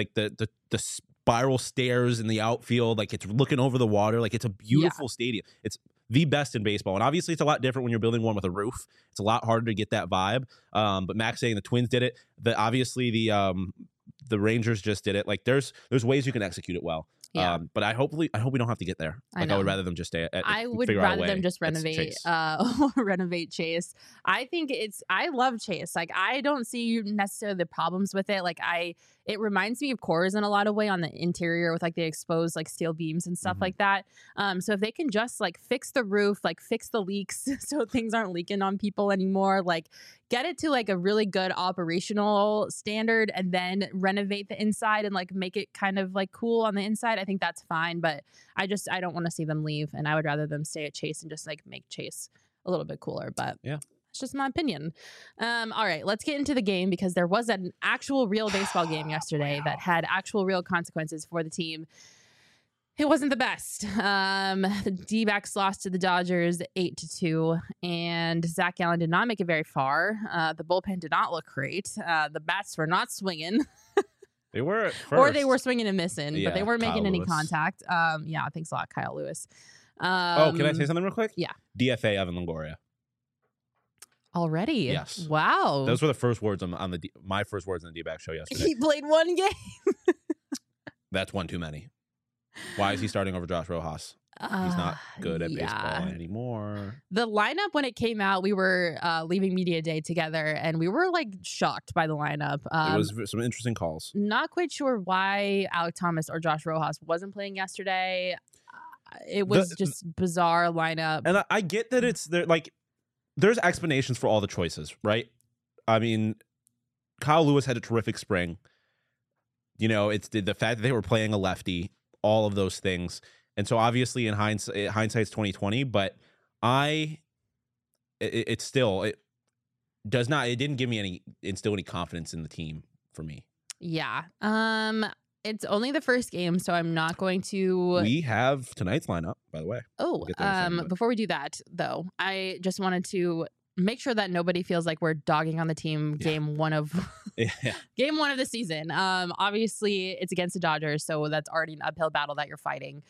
spiral stairs in the outfield, like it's looking over the water, like it's a beautiful stadium. It's the best in baseball. And obviously it's a lot different when you're building one with a roof. It's a lot harder to get that vibe. But Max saying the Twins did it. Obviously the Rangers just did it. Like, there's ways you can execute it well. Yeah. But I hope we don't have to get there. Like, I would rather them just stay at I would figure out a rather way. them just renovate Chase. renovate Chase. I think I love Chase. Like, I don't see necessarily the problems with it. Like, it reminds me of Coors in a lot of way on the interior with like the exposed like steel beams and stuff like that. So if they can just like fix the roof, like fix the leaks so things aren't leaking on people anymore, like get it to like a really good operational standard and then renovate the inside and like make it kind of like cool on the inside, I think that's fine. But I don't want to see them leave, and I would rather them stay at Chase and just like make Chase a little bit cooler. But yeah, it's just my opinion. All right, let's get into the game because there was an actual real baseball game yesterday that had actual real consequences for the team. It wasn't the best. The D-backs lost to the Dodgers 8-2, and Zach Gallen did not make it very far. The bullpen did not look great. The bats were not swinging. They were at first. Or they were swinging and missing, but they weren't making Kyle any Lewis. contact. Yeah, thanks a lot, Kyle Lewis. Can I say something real quick? Yeah. DFA Evan Longoria. Already? Yes. Wow. Those were the first words on my first words on the D-back show yesterday. He played one game. That's one too many. Why is he starting over Josh Rojas? He's not good at baseball anymore. The lineup, when it came out, we were leaving media day together, and we were like shocked by the lineup. It was some interesting calls. Not quite sure why Alec Thomas or Josh Rojas wasn't playing yesterday. It was just bizarre lineup. And I get that it's there. Like, there's explanations for all the choices, right? I mean, Kyle Lewis had a terrific spring. You know, it's the fact that they were playing a lefty, all of those things. And so obviously in hindsight's 2020, but it didn't give me instill any confidence in the team for me. Yeah. It's only the first game, so I'm not going to. We have tonight's lineup, by the way. Oh, before we do that, though, I just wanted to make sure that nobody feels like we're dogging on the team game one of game one of the season. Obviously it's against the Dodgers, so that's already an uphill battle that you're fighting.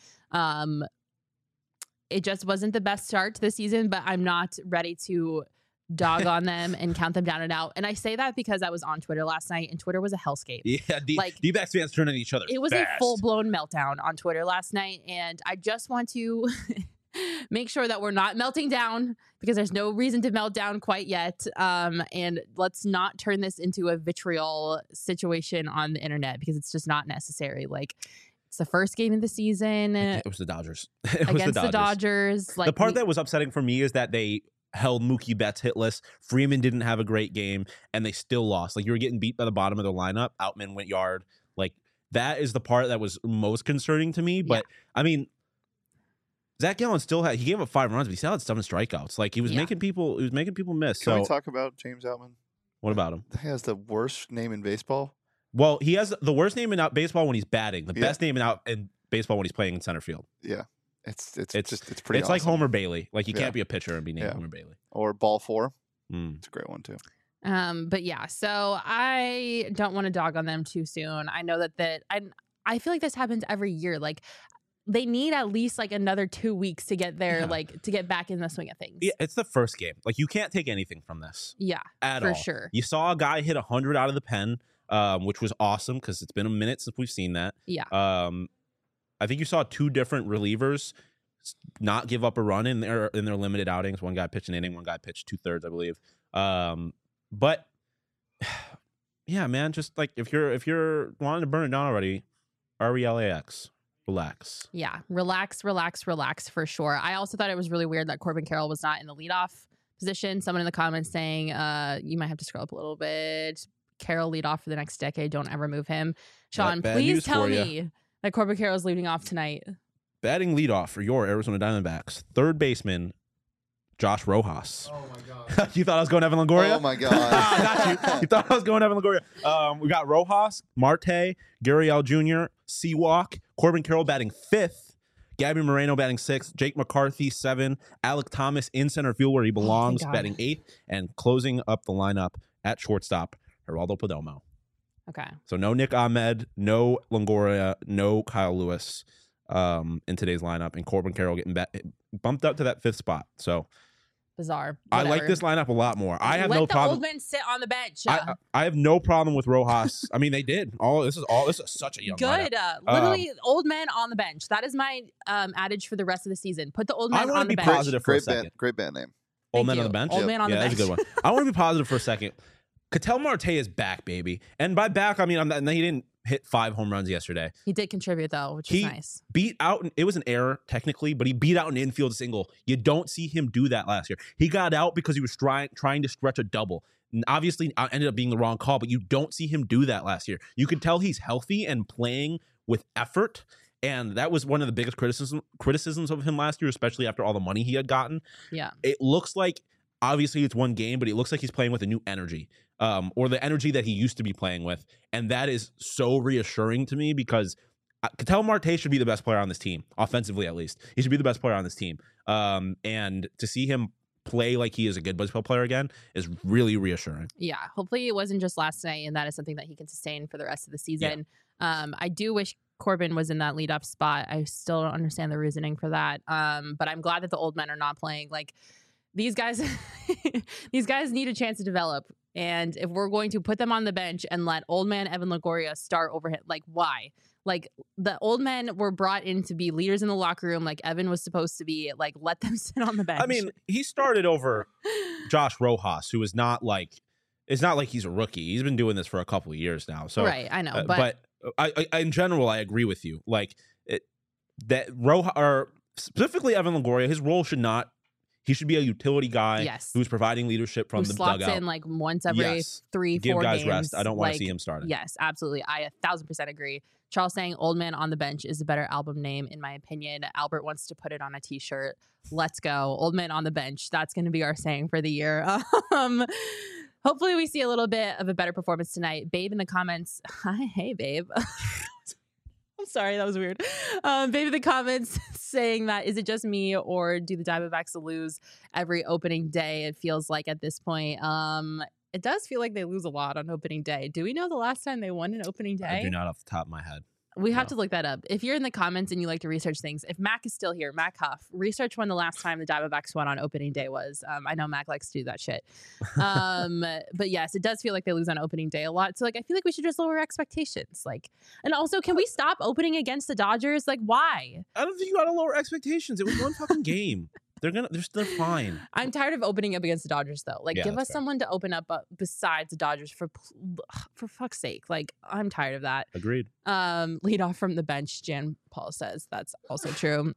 It just wasn't the best start to the season, but I'm not ready to dog on them and count them down and out. And I say that because I was on Twitter last night, and Twitter was a hellscape. Yeah, D-backs fans turning on each other. It was fast. a full-blown meltdown on Twitter last night, and I just want to make sure that we're not melting down, because there's no reason to melt down quite yet. And let's not turn this into a vitriol situation on the internet, because it's just not necessary. Like, it's the first game of the season It was the Dodgers. It was against the Dodgers. Like, the part that was upsetting for me is that they held Mookie Betts hitless. Freeman didn't have a great game, and they still lost. Like, you were getting beat by the bottom of their lineup. Outman went yard. Like, that is the part that was most concerning to me. But I mean, Zach Gallen still he gave up 5 runs, but he still had 7 strikeouts. Like, he was making people miss. Can So we talk about James Outman? what about him? He has the worst name in baseball. Well, he has the worst name in baseball when he's batting. The best name in baseball when he's playing in center field. Yeah. It's pretty It's awesome. like Homer Bailey. Like, you Yeah. can't be a pitcher and be named Homer Bailey. Or Ball 4. Mm. It's a great one too. But yeah, so I don't want to dog on them too soon. I know that I feel like this happens every year. Like, they need at least like another 2 weeks to get there, like to get back in the swing of things. Yeah, it's the first game. Like, you can't take anything from this. Yeah, at for all. sure. You saw a guy hit 100 out of the pen, which was awesome because it's been a minute since we've seen that. Yeah. I think you saw 2 different relievers not give up a run in their limited outings. One guy pitched an inning, one guy pitched 2/3, I believe. But yeah, man, just like if you're wanting to burn it down already, RELAX. Relax. Yeah, relax for sure. I also thought it was really weird that Corbin Carroll was not in the leadoff position. Someone in the comments saying, you might have to scroll up a little bit. Carroll lead off for the next decade. Don't ever move him. Sean, Bad please news tell for ya. me that Corbin Carroll is leading off tonight. Batting leadoff for your Arizona Diamondbacks, third baseman Josh Rojas. Oh my god. You thought I was going Evan Longoria? Oh my god. Got you. You thought I was going Evan Longoria. We got Rojas, Marte, Gurriel Jr., Seawalk, Corbin Carroll batting 5th, Gabby Moreno batting 6th, Jake McCarthy 7, Alec Thomas in center field where he belongs, God. batting 8th, and closing up the lineup at shortstop, Geraldo Perdomo. Okay. So no Nick Ahmed, no Longoria, no Kyle Lewis in today's lineup, and Corbin Carroll getting bumped up to that 5th spot. So Bizarre. I like Whatever. this lineup a lot more. I have Let no the problem. old men sit on the bench. I have no problem with Rojas. I mean, they did. This is such a young lineup. Good. Literally, old men on the bench. That is my adage for the rest of the season. Put the old I men wanna on the be bench. positive for a Great second. band. Great band name. Old Thank men on you. the bench. Old man on the That's a bench. good one. I want to be positive for a second. Ketel Marte is back, baby. And by back, I mean he didn't hit 5 home runs yesterday. He did contribute though, which is nice. Beat out. It was an error technically, but he beat out an infield single. You don't see him do that last year. He got out because he was trying to stretch a double. And obviously, it ended up being the wrong call, but you don't see him do that last year. You can tell he's healthy and playing with effort. And that was one of the biggest criticisms of him last year, especially after all the money he had gotten. Yeah. It looks like, obviously it's one game, but it looks like he's playing with a new energy, or the energy that he used to be playing with. And that is so reassuring to me because Ketel Marte should be the best player on this team, offensively at least. He should be the best player on this team. And to see him play like he is a good baseball player again is really reassuring. Yeah. Hopefully it wasn't just last night, and that is something that he can sustain for the rest of the season. I do wish Corbin was in that leadoff spot. I still don't understand the reasoning for that. But I'm glad that the old men are not playing. Like, these guys, these guys need a chance to develop. And if we're going to put them on the bench and let old man Evan Longoria start over him, like, why? Like, the old men were brought in to be leaders in the locker room, like Evan was supposed to be. Like, let them sit on the bench. I mean, he started over Josh Rojas, who is not like, it's not like he's a rookie. He's been doing this for a couple of years now. So right, I know, but I in general, I agree with you. Like that Rojas, or specifically Evan Longoria, his role should not. He should be a utility guy Yes. who's providing leadership from who the slots dugout. in like once every Yes. 3-4 Give guys games. rest. I don't want to like, see him starting. Yes, absolutely. I 1,000% agree. Charles saying "Old Man on the Bench" is a better album name, in my opinion. Albert wants to put it on a T-shirt. Let's go, "Old Man on the Bench." That's going to be our saying for the year. Hopefully, we see a little bit of a better performance tonight. Babe in the comments. Hi, hey, babe. I'm sorry, that was weird. Babe in the comments saying that, is it just me or do the Diamondbacks lose every opening day? It feels like at this point. It does feel like they lose a lot on opening day. Do we know the last time they won an opening day? I do not off the top of my head. We have No. to look that up. If you're in the comments and you like to research things, if Mac is still here, Mac Huff, research when the last time the Diamondbacks won on opening day was. I know Mac likes to do that shit. But yes, it does feel like they lose on opening day a lot. So like, I feel like we should just lower expectations. Like, and also, can we stop opening against the Dodgers? Like, why? I don't think you got to lower expectations. It was one fucking game. They're fine. I'm tired of opening up against the Dodgers though. Like, Yeah, give that's us fair. someone to open up besides the Dodgers for fuck's sake. Like, I'm tired of that. Agreed. Lead off from the bench, Jan Paul says. That's also true.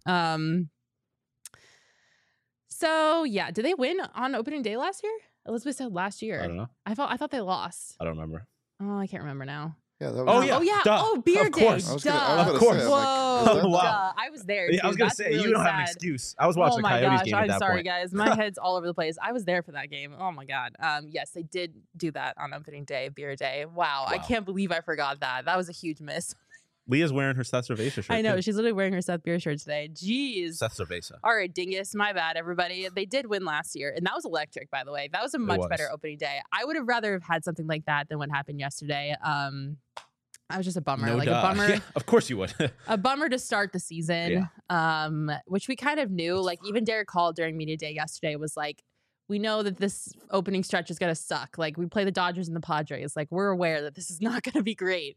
So yeah, did they win on opening day last year? Elizabeth said last year. I don't know. I thought they lost. I don't remember. Oh, I can't remember now. Yeah, that was. Oh, yeah. Oh yeah. Duh. Oh, beer Of day. course. I was Duh. gonna Of course. say, I'm Whoa. like, was that- Wow. Duh. I was there. Yeah, I was too. gonna That's say really you don't have an sad. excuse. I was watching Oh the my Coyotes gosh, game at I'm that sorry, point. guys. My head's all over the place. I was there for that game. Oh my god. Yes, they did do that on opening day, beer day. Wow. I Wow. can't believe I forgot that. That was a huge miss. Leah's wearing her Seth Cerveza shirt. I know. too. She's literally wearing her Seth Beer shirt today. Jeez. Seth Cerveza. All right, dingus. My bad, everybody. They did win last year, and that was electric, by the way. That was a much was. better opening day. I would have rather have had something like that than what happened yesterday. I was just a bummer. No like duh. a bummer. Yeah, of course you would. A bummer to start the season, which we kind of knew. It's Like even Derek Hall during media day yesterday was like, we know that this opening stretch is going to suck. Like we play the Dodgers and the Padres. Like we're aware that this is not going to be great.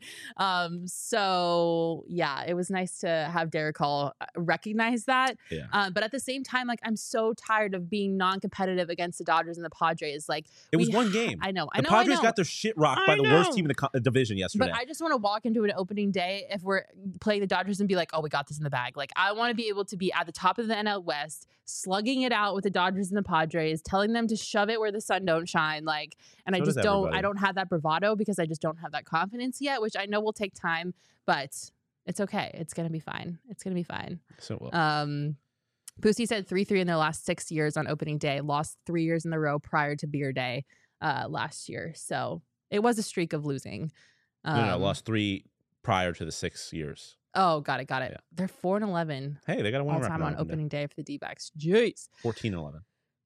So yeah, it was nice to have Derek Hall recognize that. Yeah. But at the same time, like I'm so tired of being non-competitive against the Dodgers and the Padres. Like It was we- one game. I know. The Padres got their shit rocked by I the worst know. team in the division yesterday. But I just want to walk into an opening day if we're playing the Dodgers and be like, oh, we got this in the bag. Like, I want to be able to be at the top of the NL West, slugging it out with the Dodgers and the Padres, telling them to shove it where the sun don't shine. Like, and I So just does don't, everybody. I don't have that bravado because I just don't have that confidence yet, which I know will take time, but it's okay. It's going to be fine. It's going to be fine. So well. Pussy said 3-3 in their last 6 years on opening day, lost 3 years in a row prior to beer day last year. So it was a streak of losing. No, lost 3 prior to the 6 years. Oh, got it. Yeah. They're 4-11 Hey, they got to win all record time on day. opening day for the D-backs. Jeez. 14-11.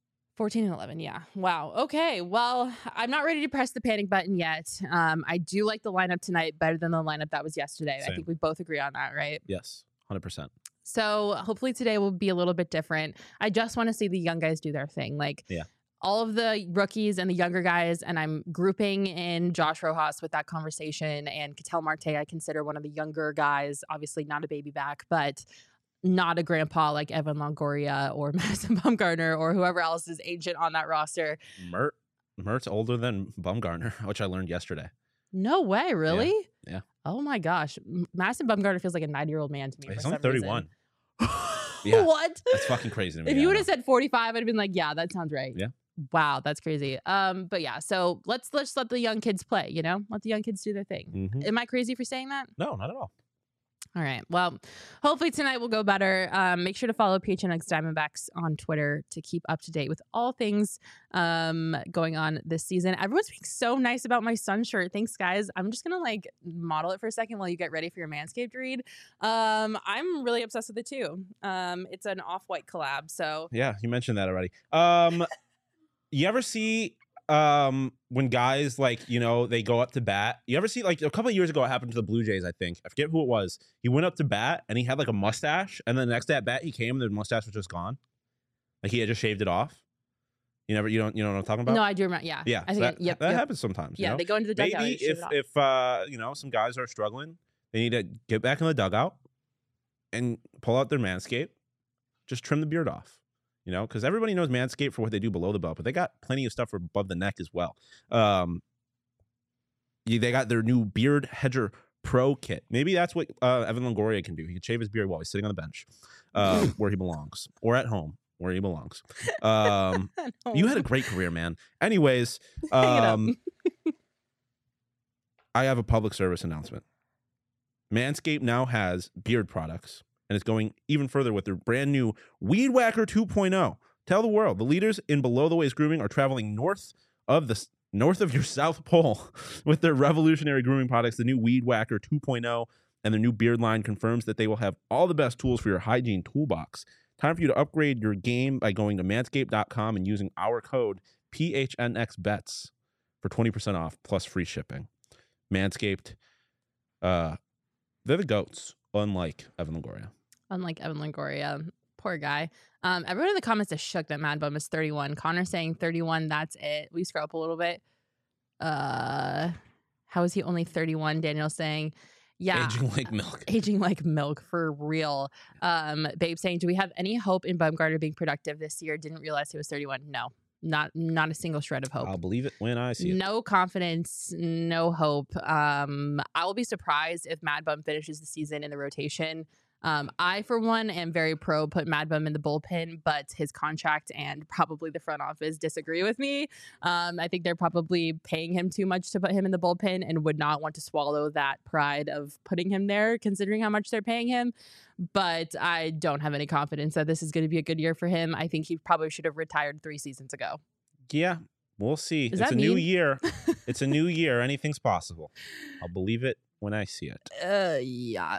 14-11, yeah. Wow. Okay. Well, I'm not ready to press the panic button yet. I do like the lineup tonight better than the lineup that was yesterday. I Same. think we both agree on that, right? Yes, 100%. So hopefully today will be a little bit different. I just want to see the young guys do their thing. Like Yeah. all of the rookies and the younger guys, and I'm grouping in Josh Rojas with that conversation, and Ketel Marte I consider one of the younger guys, obviously not a baby back, but not a grandpa like Evan Longoria or Madison Bumgarner or whoever else is ancient on that roster. Mert's older than Bumgarner, which I learned yesterday. No way, really? Yeah. Oh my gosh. Madison Bumgarner feels like a 90-year-old man to me. He's for only some reason. 31. Yeah. What? That's fucking crazy to me. If I you would know. have said 45, I'd have been like, yeah, that sounds right. Yeah. Wow, that's crazy. But yeah, so let's let the young kids play, you know? Let the young kids do their thing. Mhm. Am I crazy for saying that? No, not at all. All right. Well, hopefully tonight will go better. Make sure to follow PHNX Diamondbacks on Twitter to keep up to date with all things going on this season. Everyone's being so nice about my sun shirt. Thanks, guys. I'm just gonna like model it for a second while you get ready for your Manscaped read. I'm really obsessed with it too. It's an off-white collab, so Yeah, you mentioned that already. You ever see when guys like, they go up to bat? You ever see like a couple of years ago it happened to the Blue Jays, I think. I forget who it was. He went up to bat and he had like a mustache, and then the next at bat he came and the mustache was just gone. Like he had just shaved it off. You know what I'm talking about? no, I do remember. Yeah, Yeah, I so think that happens sometimes. Yeah, you know? they go into the dugout. Maybe and shave it if off. some guys are struggling, they need to get back in the dugout and pull out their Manscaped, just trim the beard off. Because everybody knows Manscaped for what they do below the belt, but they got plenty of stuff for above the neck as well. They got their new Beard Hedger Pro kit. Maybe that's what Evan Longoria can do. He can shave his beard while he's sitting on the bench, where he belongs, or at home where he belongs. You had a great career, man. Anyways, Hang it up. I have a public service announcement. Manscaped now has beard products, and it's going even further with their brand new Weed Whacker 2.0. Tell the world, the leaders in below the waist grooming are traveling north of your South Pole with their revolutionary grooming products. The new Weed Whacker 2.0 and their new beard line confirms that they will have all the best tools for your hygiene toolbox. Time for you to upgrade your game by going to manscaped.com and using our code PHNXBets for 20% off plus free shipping. Manscaped, They're the GOATs, unlike Evan Longoria. Unlike Evan Longoria. Poor guy. Everyone in the comments is shook that Mad Bum is 31. Connor saying 31, that's it. We scroll up a little bit. How is he only 31? Daniel saying, yeah. Aging like milk. Aging like milk, for real. Babe saying, do we have any hope in Bumgarner being productive this year? Didn't realize he was 31. No, not a single shred of hope. I'll believe it when I see it. No confidence, no hope. I will be surprised if Mad Bum finishes the season in the rotation. I, for one, am very pro put Mad Bum in the bullpen, but his contract and probably the front office disagree with me. I think they're probably paying him too much to put him in the bullpen and would not want to swallow that pride of putting him there, considering how much they're paying him. But I don't have any confidence that this is going to be a good year for him. I think he probably should have retired 3 seasons ago. Yeah, we'll see. Is It's that a new mean? year. It's a new year. Anything's possible. I'll believe it when I see it. Yeah.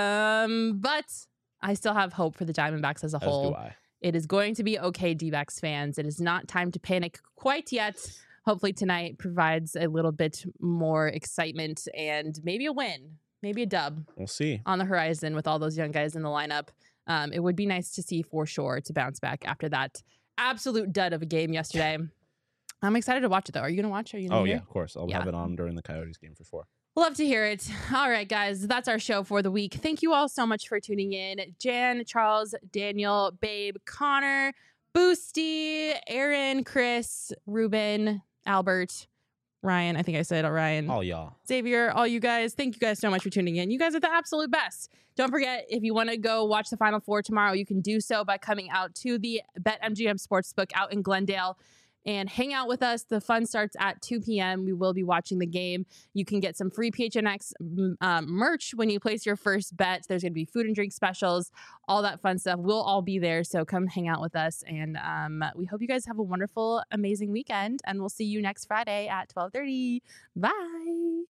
But I still have hope for the Diamondbacks as a As whole. do I. It is going to be okay, D-backs fans. It is not time to panic quite yet. Hopefully tonight provides a little bit more excitement and maybe a win, maybe a dub We'll see. on the horizon with all those young guys in the lineup. It would be nice to see for sure to bounce back after that absolute dud of a game yesterday. I'm excited to watch it, though. Are you going to watch it? Are you gonna Oh, hear yeah, of course. I'll Yeah. have it on during the Coyotes game for 4. Love to hear it. All right, guys, that's our show for the week. Thank you all so much for tuning in. Jan, Charles, Daniel, Babe, Connor, Boosty, Aaron, Chris, Ruben, Albert, Ryan. I think I said Ryan. All y'all. Xavier, all you guys. Thank you guys so much for tuning in. You guys are the absolute best. Don't forget, if you want to go watch the Final Four tomorrow, you can do so by coming out to the BetMGM Sportsbook out in Glendale and hang out with us. The fun starts at 2 p.m. We will be watching the game. You can get some free PHNX merch when you place your first bet. There's going to be food and drink specials, all that fun stuff. We'll all be there, so come hang out with us. And we hope you guys have a wonderful, amazing weekend, and we'll see you next Friday at 12:30. Bye.